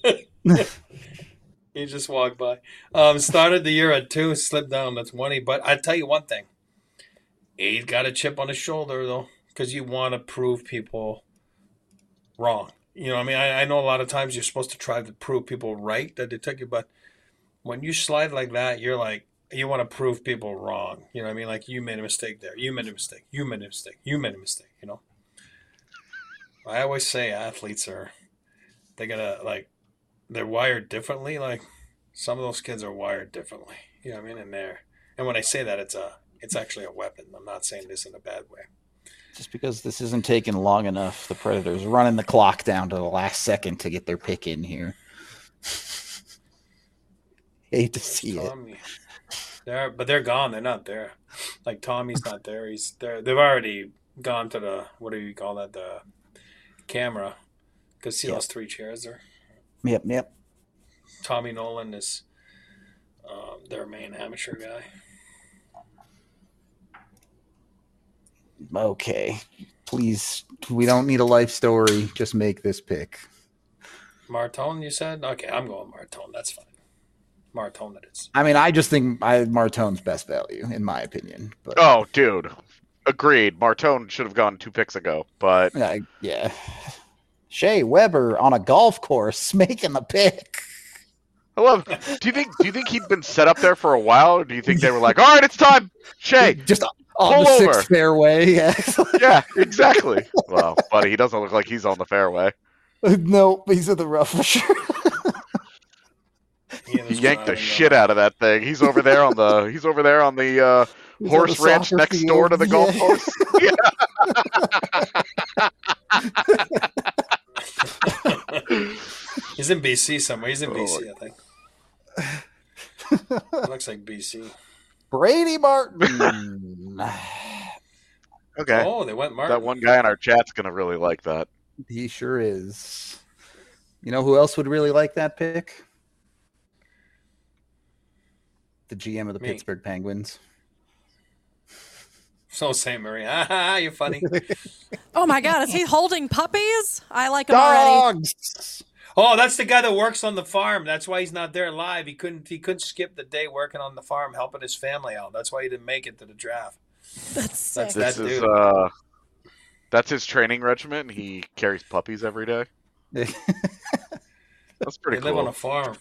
He just walked by. Started the year at 2, slipped down to 20. But I tell you one thing, he's got a chip on his shoulder though, because you want to prove people wrong. You know what I mean? I know a lot of times you're supposed to try to prove people right that they took you, but when you slide like that, you're like, you want to prove people wrong. You know what I mean? Like, you made a mistake there. You made a mistake. You made a mistake. You made a mistake, you know? I always say athletes they're wired differently. Like, some of those kids are wired differently. You know what I mean? And when I say that, it's actually a weapon. I'm not saying this in a bad way. Just because this isn't taking long enough, the Predators running the clock down to the last second to get their pick in here. Hate to see it. Tommy. But they're gone. They're not there. Like, Tommy's not there. He's there. They've already gone to the, what do you call that? The camera. Because see those 3 chairs there? Yep. Tommy Nolan is their main amateur guy. Okay. Please, we don't need a life story. Just make this pick. Martone, you said? Okay, I'm going Martone. That's fine. Martone it is. I mean, I just think Martone's best value, in my opinion. But Oh, dude. Agreed. Martone should have gone 2 picks ago, but yeah. Shea Weber on a golf course making the pick. I love. Do you think he'd been set up there for a while, or do you think they were like, "All right, it's time, Shea"? Just on Pull the over. 6th fairway. Yeah. Yeah, exactly. Well, buddy, he doesn't look like he's on the fairway. Nope, he's in the rough for sure. He yanked the shit out of that thing. He's over there on the. He's over there on the He's horse on the ranch soccer next field. door to the golf Yeah. course. He's in BC somewhere. He's in Oh. BC, I think. Looks like BC. Brady Martin. Okay. Oh, they went Martin. That one guy in our chat's gonna really like that. He sure is. You know who else would really like that pick? The GM of the Me. Pittsburgh Penguins. So St. Marie. Ah, you're funny. Oh my God, is he holding puppies? I like him already. Dogs! Oh, that's the guy that works on the farm. That's why he's not there live. He couldn't skip the day working on the farm, helping his family out. That's why he didn't make it to the draft. That's sick. That This is dude. that's his training regimen. He carries puppies every day. That's pretty They live on cool. a farm.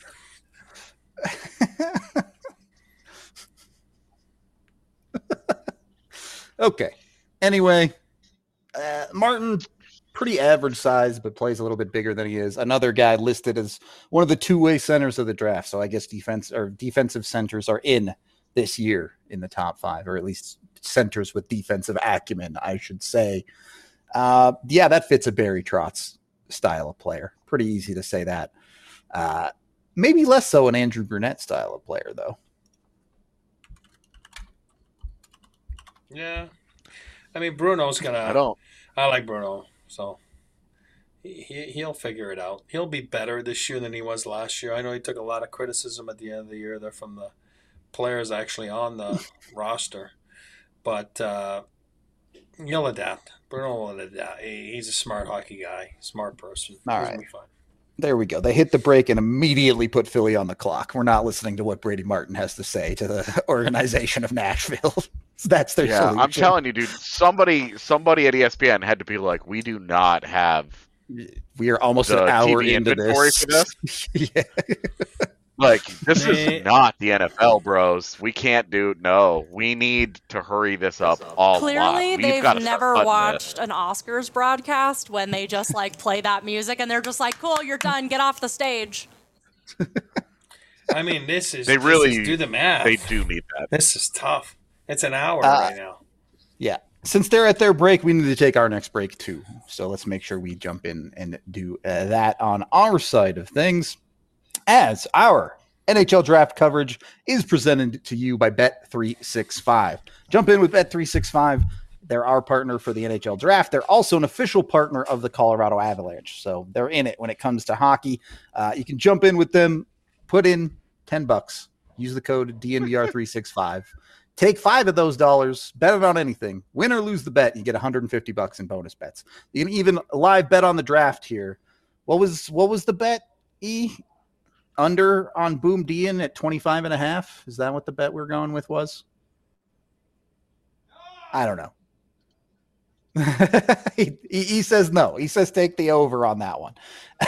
Okay. Anyway, Martin, pretty average size, but plays a little bit bigger than he is. Another guy listed as one of the two-way centers of the draft. So I guess defensive centers are in this year in the top 5, or at least centers with defensive acumen, I should say. Yeah, that fits a Barry Trotz style of player. Pretty easy to say that. Maybe less so an Andrew Brunette style of player, though. Yeah. I mean, Bruno's gonna. I like Bruno, so he'll figure it out. He'll be better this year than he was last year. I know he took a lot of criticism at the end of the year there from the players actually on the roster, but he'll adapt. Bruno will adapt. He's a smart hockey guy, smart person. All He's right. gonna be fine. There we go. They hit the break and immediately put Philly on the clock. We're not listening to what Brady Martin has to say to the organization of Nashville. That's their solution. I'm telling you, dude. Somebody at ESPN had to be like, we do not have. We are almost an hour TV into inventory this. for this? Yeah. Like, this is not the NFL, bros. We can't do. No, we need to hurry this up all. Clearly, We've they've gotta start never cutting watched an Oscars broadcast when they just like play that music and they're just like, "Cool, you're done. Get off the stage." I mean, this is do the math. They do need that. This is tough. It's an hour right now. Yeah. Since they're at their break, we need to take our next break too. So let's make sure we jump in and do that on our side of things, as our NHL draft coverage is presented to you by Bet365. Jump in with Bet365. They're our partner for the NHL draft. They're also an official partner of the Colorado Avalanche. So they're in it when it comes to hockey. You can jump in with them, put in $10, use the code DNVR365. Take $5 of those dollars, bet it on anything. Win or lose the bet, you get $150 in bonus bets. You can even live bet on the draft here. What was the bet, E? Under on Boom Dian at 25.5? Is that what the bet we're going with was? I don't know. he says no. He says take the over on that one.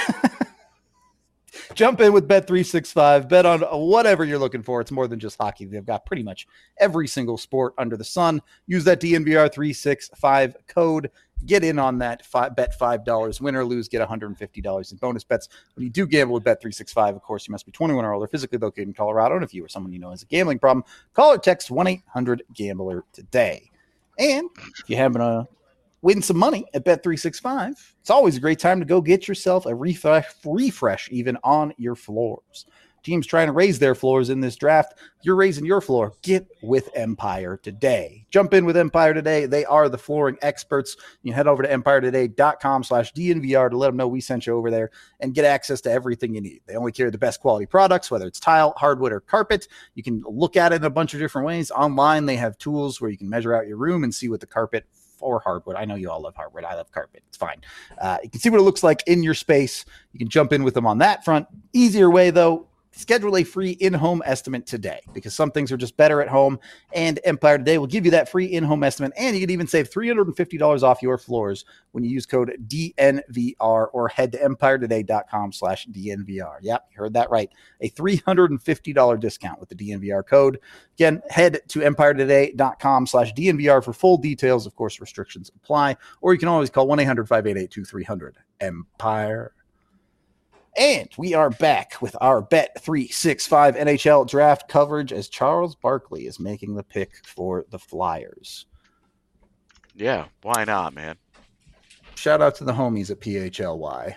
Jump in with Bet365. Bet on whatever you're looking for. It's more than just hockey. They've got pretty much every single sport under the sun. Use that DNVR365 code. Get in on that. Bet $5. Win or lose, get $150 in bonus bets. When you do gamble with Bet365, of course, you must be 21 or older, physically located in Colorado. And if you or someone you know has a gambling problem, call or text 1-800-GAMBLER today. And if you happen to win some money at Bet365, it's always a great time to go get yourself a refresh even on your floors. Teams trying to raise their floors in this draft. You're raising your floor. Get with Empire today. Jump in with Empire today. They are the flooring experts. You head over to empiretoday.com/DNVR to let them know we sent you over there and get access to everything you need. They only carry the best quality products, whether it's tile, hardwood, or carpet. You can look at it in a bunch of different ways. Online, they have tools where you can measure out your room and see what the carpet or hardwood. I know you all love hardwood. I love carpet. It's fine. You can see what it looks like in your space. You can jump in with them on that front. Easier way, though, schedule a free in-home estimate today, because some things are just better at home, and Empire Today will give you that free in-home estimate, and you can even save $350 off your floors when you use code DNVR or head to empiretoday.com/DNVR. Yep, you heard that right. A $350 discount with the DNVR code. Again, head to empiretoday.com/DNVR for full details. Of course, restrictions apply, or you can always call 1-800-588-2300 Empire. And we are back with our Bet365 NHL draft coverage as Charles Barkley is making the pick for the Flyers. Yeah, why not, man? Shout out to the homies at PHLY.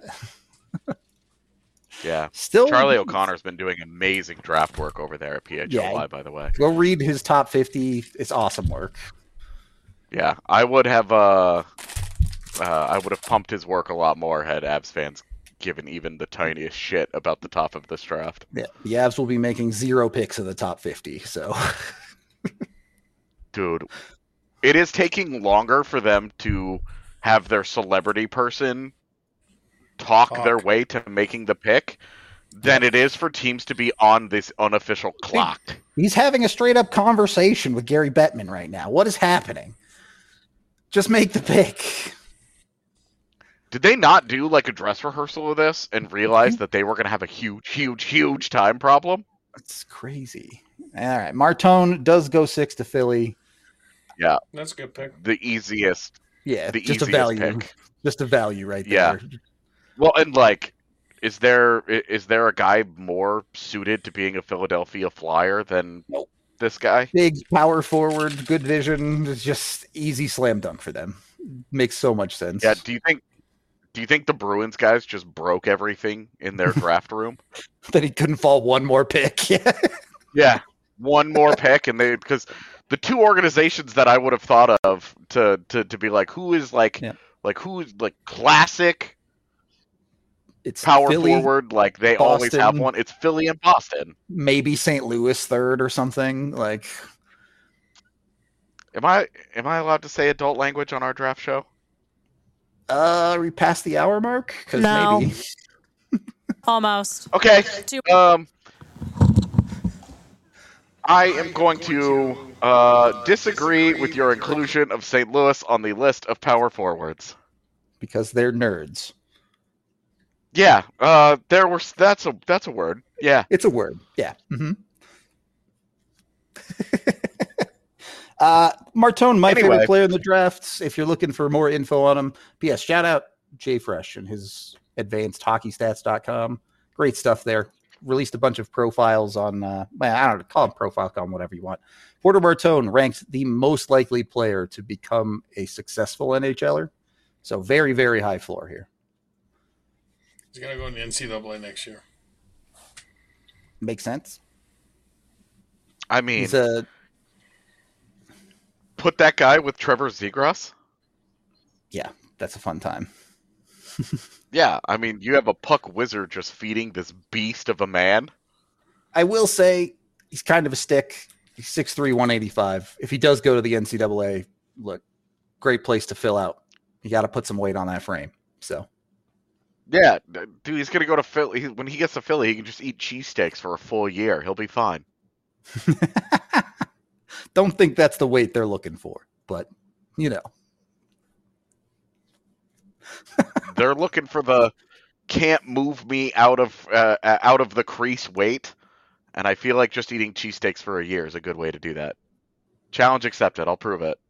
Yeah. Still, Charlie O'Connor's been doing amazing draft work over there at PHLY, by the way. Go read his top 50. It's awesome work. Yeah, I would have pumped his work a lot more had Avs fans given even the tiniest shit about the top of this draft. Yeah, the Avs will be making 0 picks of the top 50. So, dude, it is taking longer for them to have their celebrity person talk their way to making the pick than it is for teams to be on this unofficial clock. He's having a straight up conversation with Gary Bettman right now. What is happening? Just make the pick. Did they not do like a dress rehearsal of this and realize that they were going to have a huge time problem? It's crazy. All right. Martone does go 6 to Philly. Yeah. That's a good pick. The easiest. Yeah. The just a easiest value. pick. Just a value right Yeah. there. Well, and like, is there a guy more suited to being a Philadelphia Flyer than this guy? Big power forward, good vision. It's just easy slam dunk for them. Makes so much sense. Yeah. Do you think the Bruins guys just broke everything in their draft room? That he couldn't fall one more pick. Yeah. Yeah. One more pick, and because the two organizations that I would have thought of to be like, who is who's like classic It's power Philly, forward, like they always Boston. have one. It's Philly and Boston. maybe St. Louis third or something. Like, Am I allowed to say adult language on our draft show? we passed the hour mark? Because No. maybe. Almost. Okay. Two- I am going to disagree with your inclusion of St. Louis on the list of power forwards. Because they're nerds. Yeah, that's a word. Yeah. It's a word. Yeah. Mm-hmm. Martone, my Anyway. favorite player in the drafts. If you're looking for more info on him, yes, shout out Jay Fresh and his advancedhockeystats.com. Great stuff there. Released a bunch of profiles on, I don't know, call him profile, call him whatever you want. Porter Martone ranked the most likely player to become a successful NHLer. So very, very high floor here. He's going to go in the NCAA next year. Makes sense. I mean, He's a put that guy with Trevor Zegras. yeah, that's a fun time. Yeah, I mean, you have a puck wizard just feeding this beast of a man. I will say he's kind of a stick. He's 6'3", 185. If he does go to the NCAA, look, great place to fill out. You got to put some weight on that frame. So Yeah, dude, he's gonna go to Philly. When he gets to Philly, he can just eat cheesesteaks for a full year. He'll be fine. don't think that's the weight they're looking for, but you know. They're looking for the can't move me out of the crease weight, and I feel like just eating cheesesteaks for a year is a good way to do that. Challenge accepted. I'll prove it.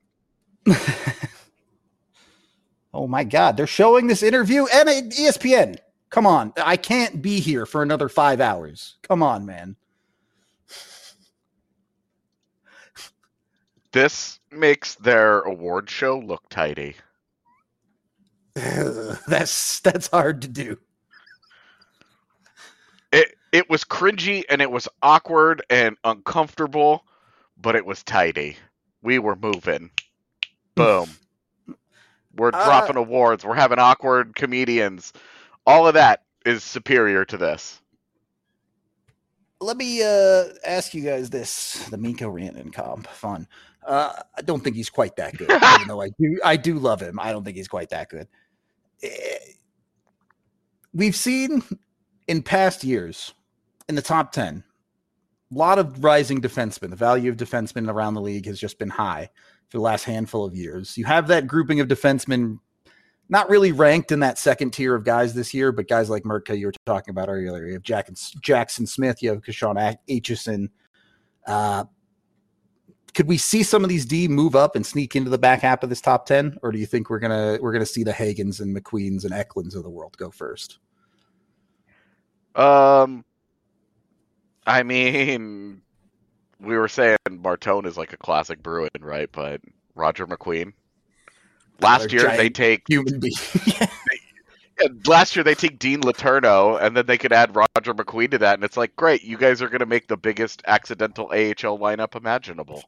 Oh my God, they're showing this interview and ESPN. Come on, I can't be here for another 5 hours. Come on, man. This makes their award show look tidy. That's hard to do. It was cringy and it was awkward and uncomfortable, but it was tidy. We were moving. Boom. We're dropping awards. We're having awkward comedians. All of that is superior to this. Let me ask you guys this: the Mikko Rantanen comp, fun. I don't think he's quite that good, even though I do love him. I don't think he's quite that good. We've seen in past years in the top 10, a lot of rising defensemen. The value of defensemen around the league has just been high for the last handful of years. You have that grouping of defensemen not really ranked in that second tier of guys this year, but guys like Mertka you were talking about earlier. You have Jackson Smith, you have Kashawn Aitchison. Could we see some of these D move up and sneak into the back half of this top 10, or do you think we're gonna see the Hagans and McQueens and Eklunds of the world go first? I mean, we were saying Martone is like a classic Bruin, right? But Roger McQueen. Last year they take human being. Last year they take Dean Letourneau, and then they could add Roger McQueen to that, and it's like, great, you guys are going to make the biggest accidental AHL lineup imaginable.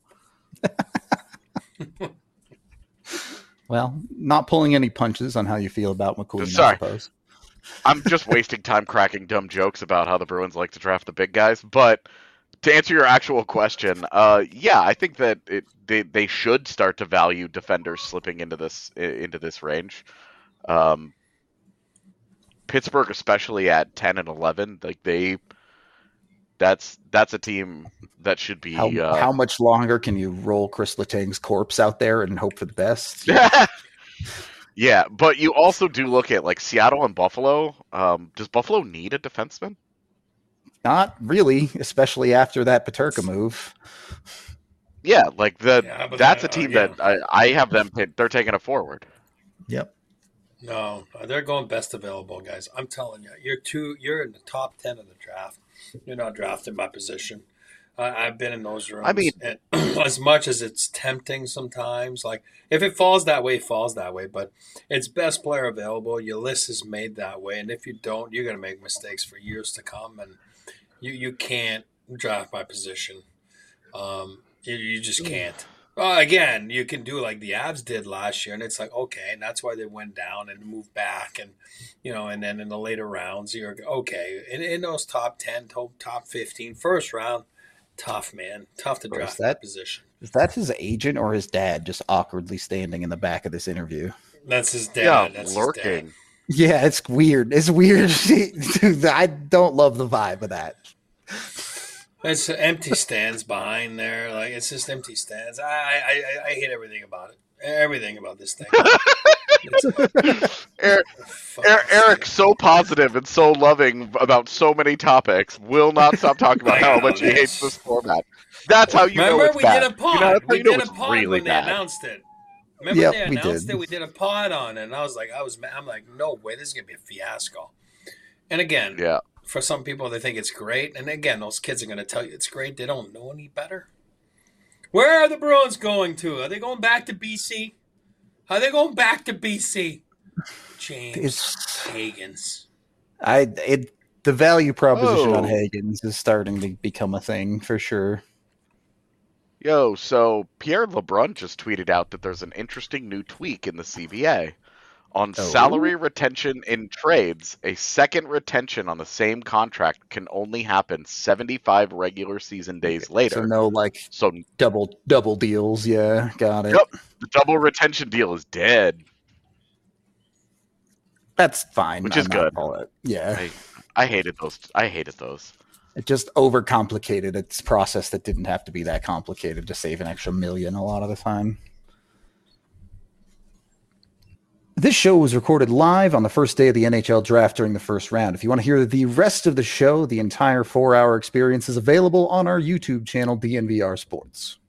Well, not pulling any punches on how you feel about McQueen, Sorry. I suppose. I'm just wasting time cracking dumb jokes about how the Bruins like to draft the big guys, but to answer your actual question, yeah, I think that they should start to value defenders slipping into this range. Pittsburgh, especially at 10 and 11, like that's a team that should be. How much longer can you roll Chris Letang's corpse out there and hope for the best? Yeah, but you also do look at like Seattle and Buffalo. Does Buffalo need a defenseman? Not really, especially after that Peterka move. Yeah, like that's a team that I have them. They're taking it forward. Yep. No, they're going best available, guys. I'm telling you, you're in the top 10 of the draft. You're not drafted by position. I've been in those rooms. I mean, and as much as it's tempting sometimes, like if it falls that way, it falls that way. But it's best player available. Your list is made that way, and if you don't, you're going to make mistakes for years to come. And you can't draft by position. You just can't. Well, again, you can do like the Avs did last year, and it's like, okay, and that's why they went down and moved back, and and then in the later rounds, you're okay. In those top 10, top 15, first round, tough, man. Tough to draft that position. Is that his agent or his dad just awkwardly standing in the back of this interview? That's his dad. Yeah, that's lurking. His dad. Yeah, it's weird. It's weird. I don't love the vibe of that. It's empty stands behind there. Like it's just empty stands. I hate everything about it. Everything about this thing. Eric, so positive and so loving about so many topics, will not stop talking about how much he hates this format. That's how you know it's bad. Did a pod. We did a pod really when bad. They announced it. Remember they announced it? We did a pod on it, and I'm like, no way, this is gonna be a fiasco. And again, yeah. For some people, they think it's great. And again, those kids are going to tell you it's great. They don't know any better. Where are the Bruins going to? Are they going back to BC? Are they going back to BC? James Higgins. The value proposition on Higgins is starting to become a thing for sure. Yo, so Pierre LeBrun just tweeted out that there's an interesting new tweak in the CBA. On salary retention in trades, a second retention on the same contract can only happen 75 regular season days later. So double deals. Yeah, got it. Yep, the double retention deal is dead. That's fine. Which is good. Yeah. I hated those. It just overcomplicated its process that didn't have to be that complicated to save an extra $1 million a lot of the time. This show was recorded live on the first day of the NHL draft during the first round. If you want to hear the rest of the show, the entire 4-hour experience is available on our YouTube channel, DNVR Sports.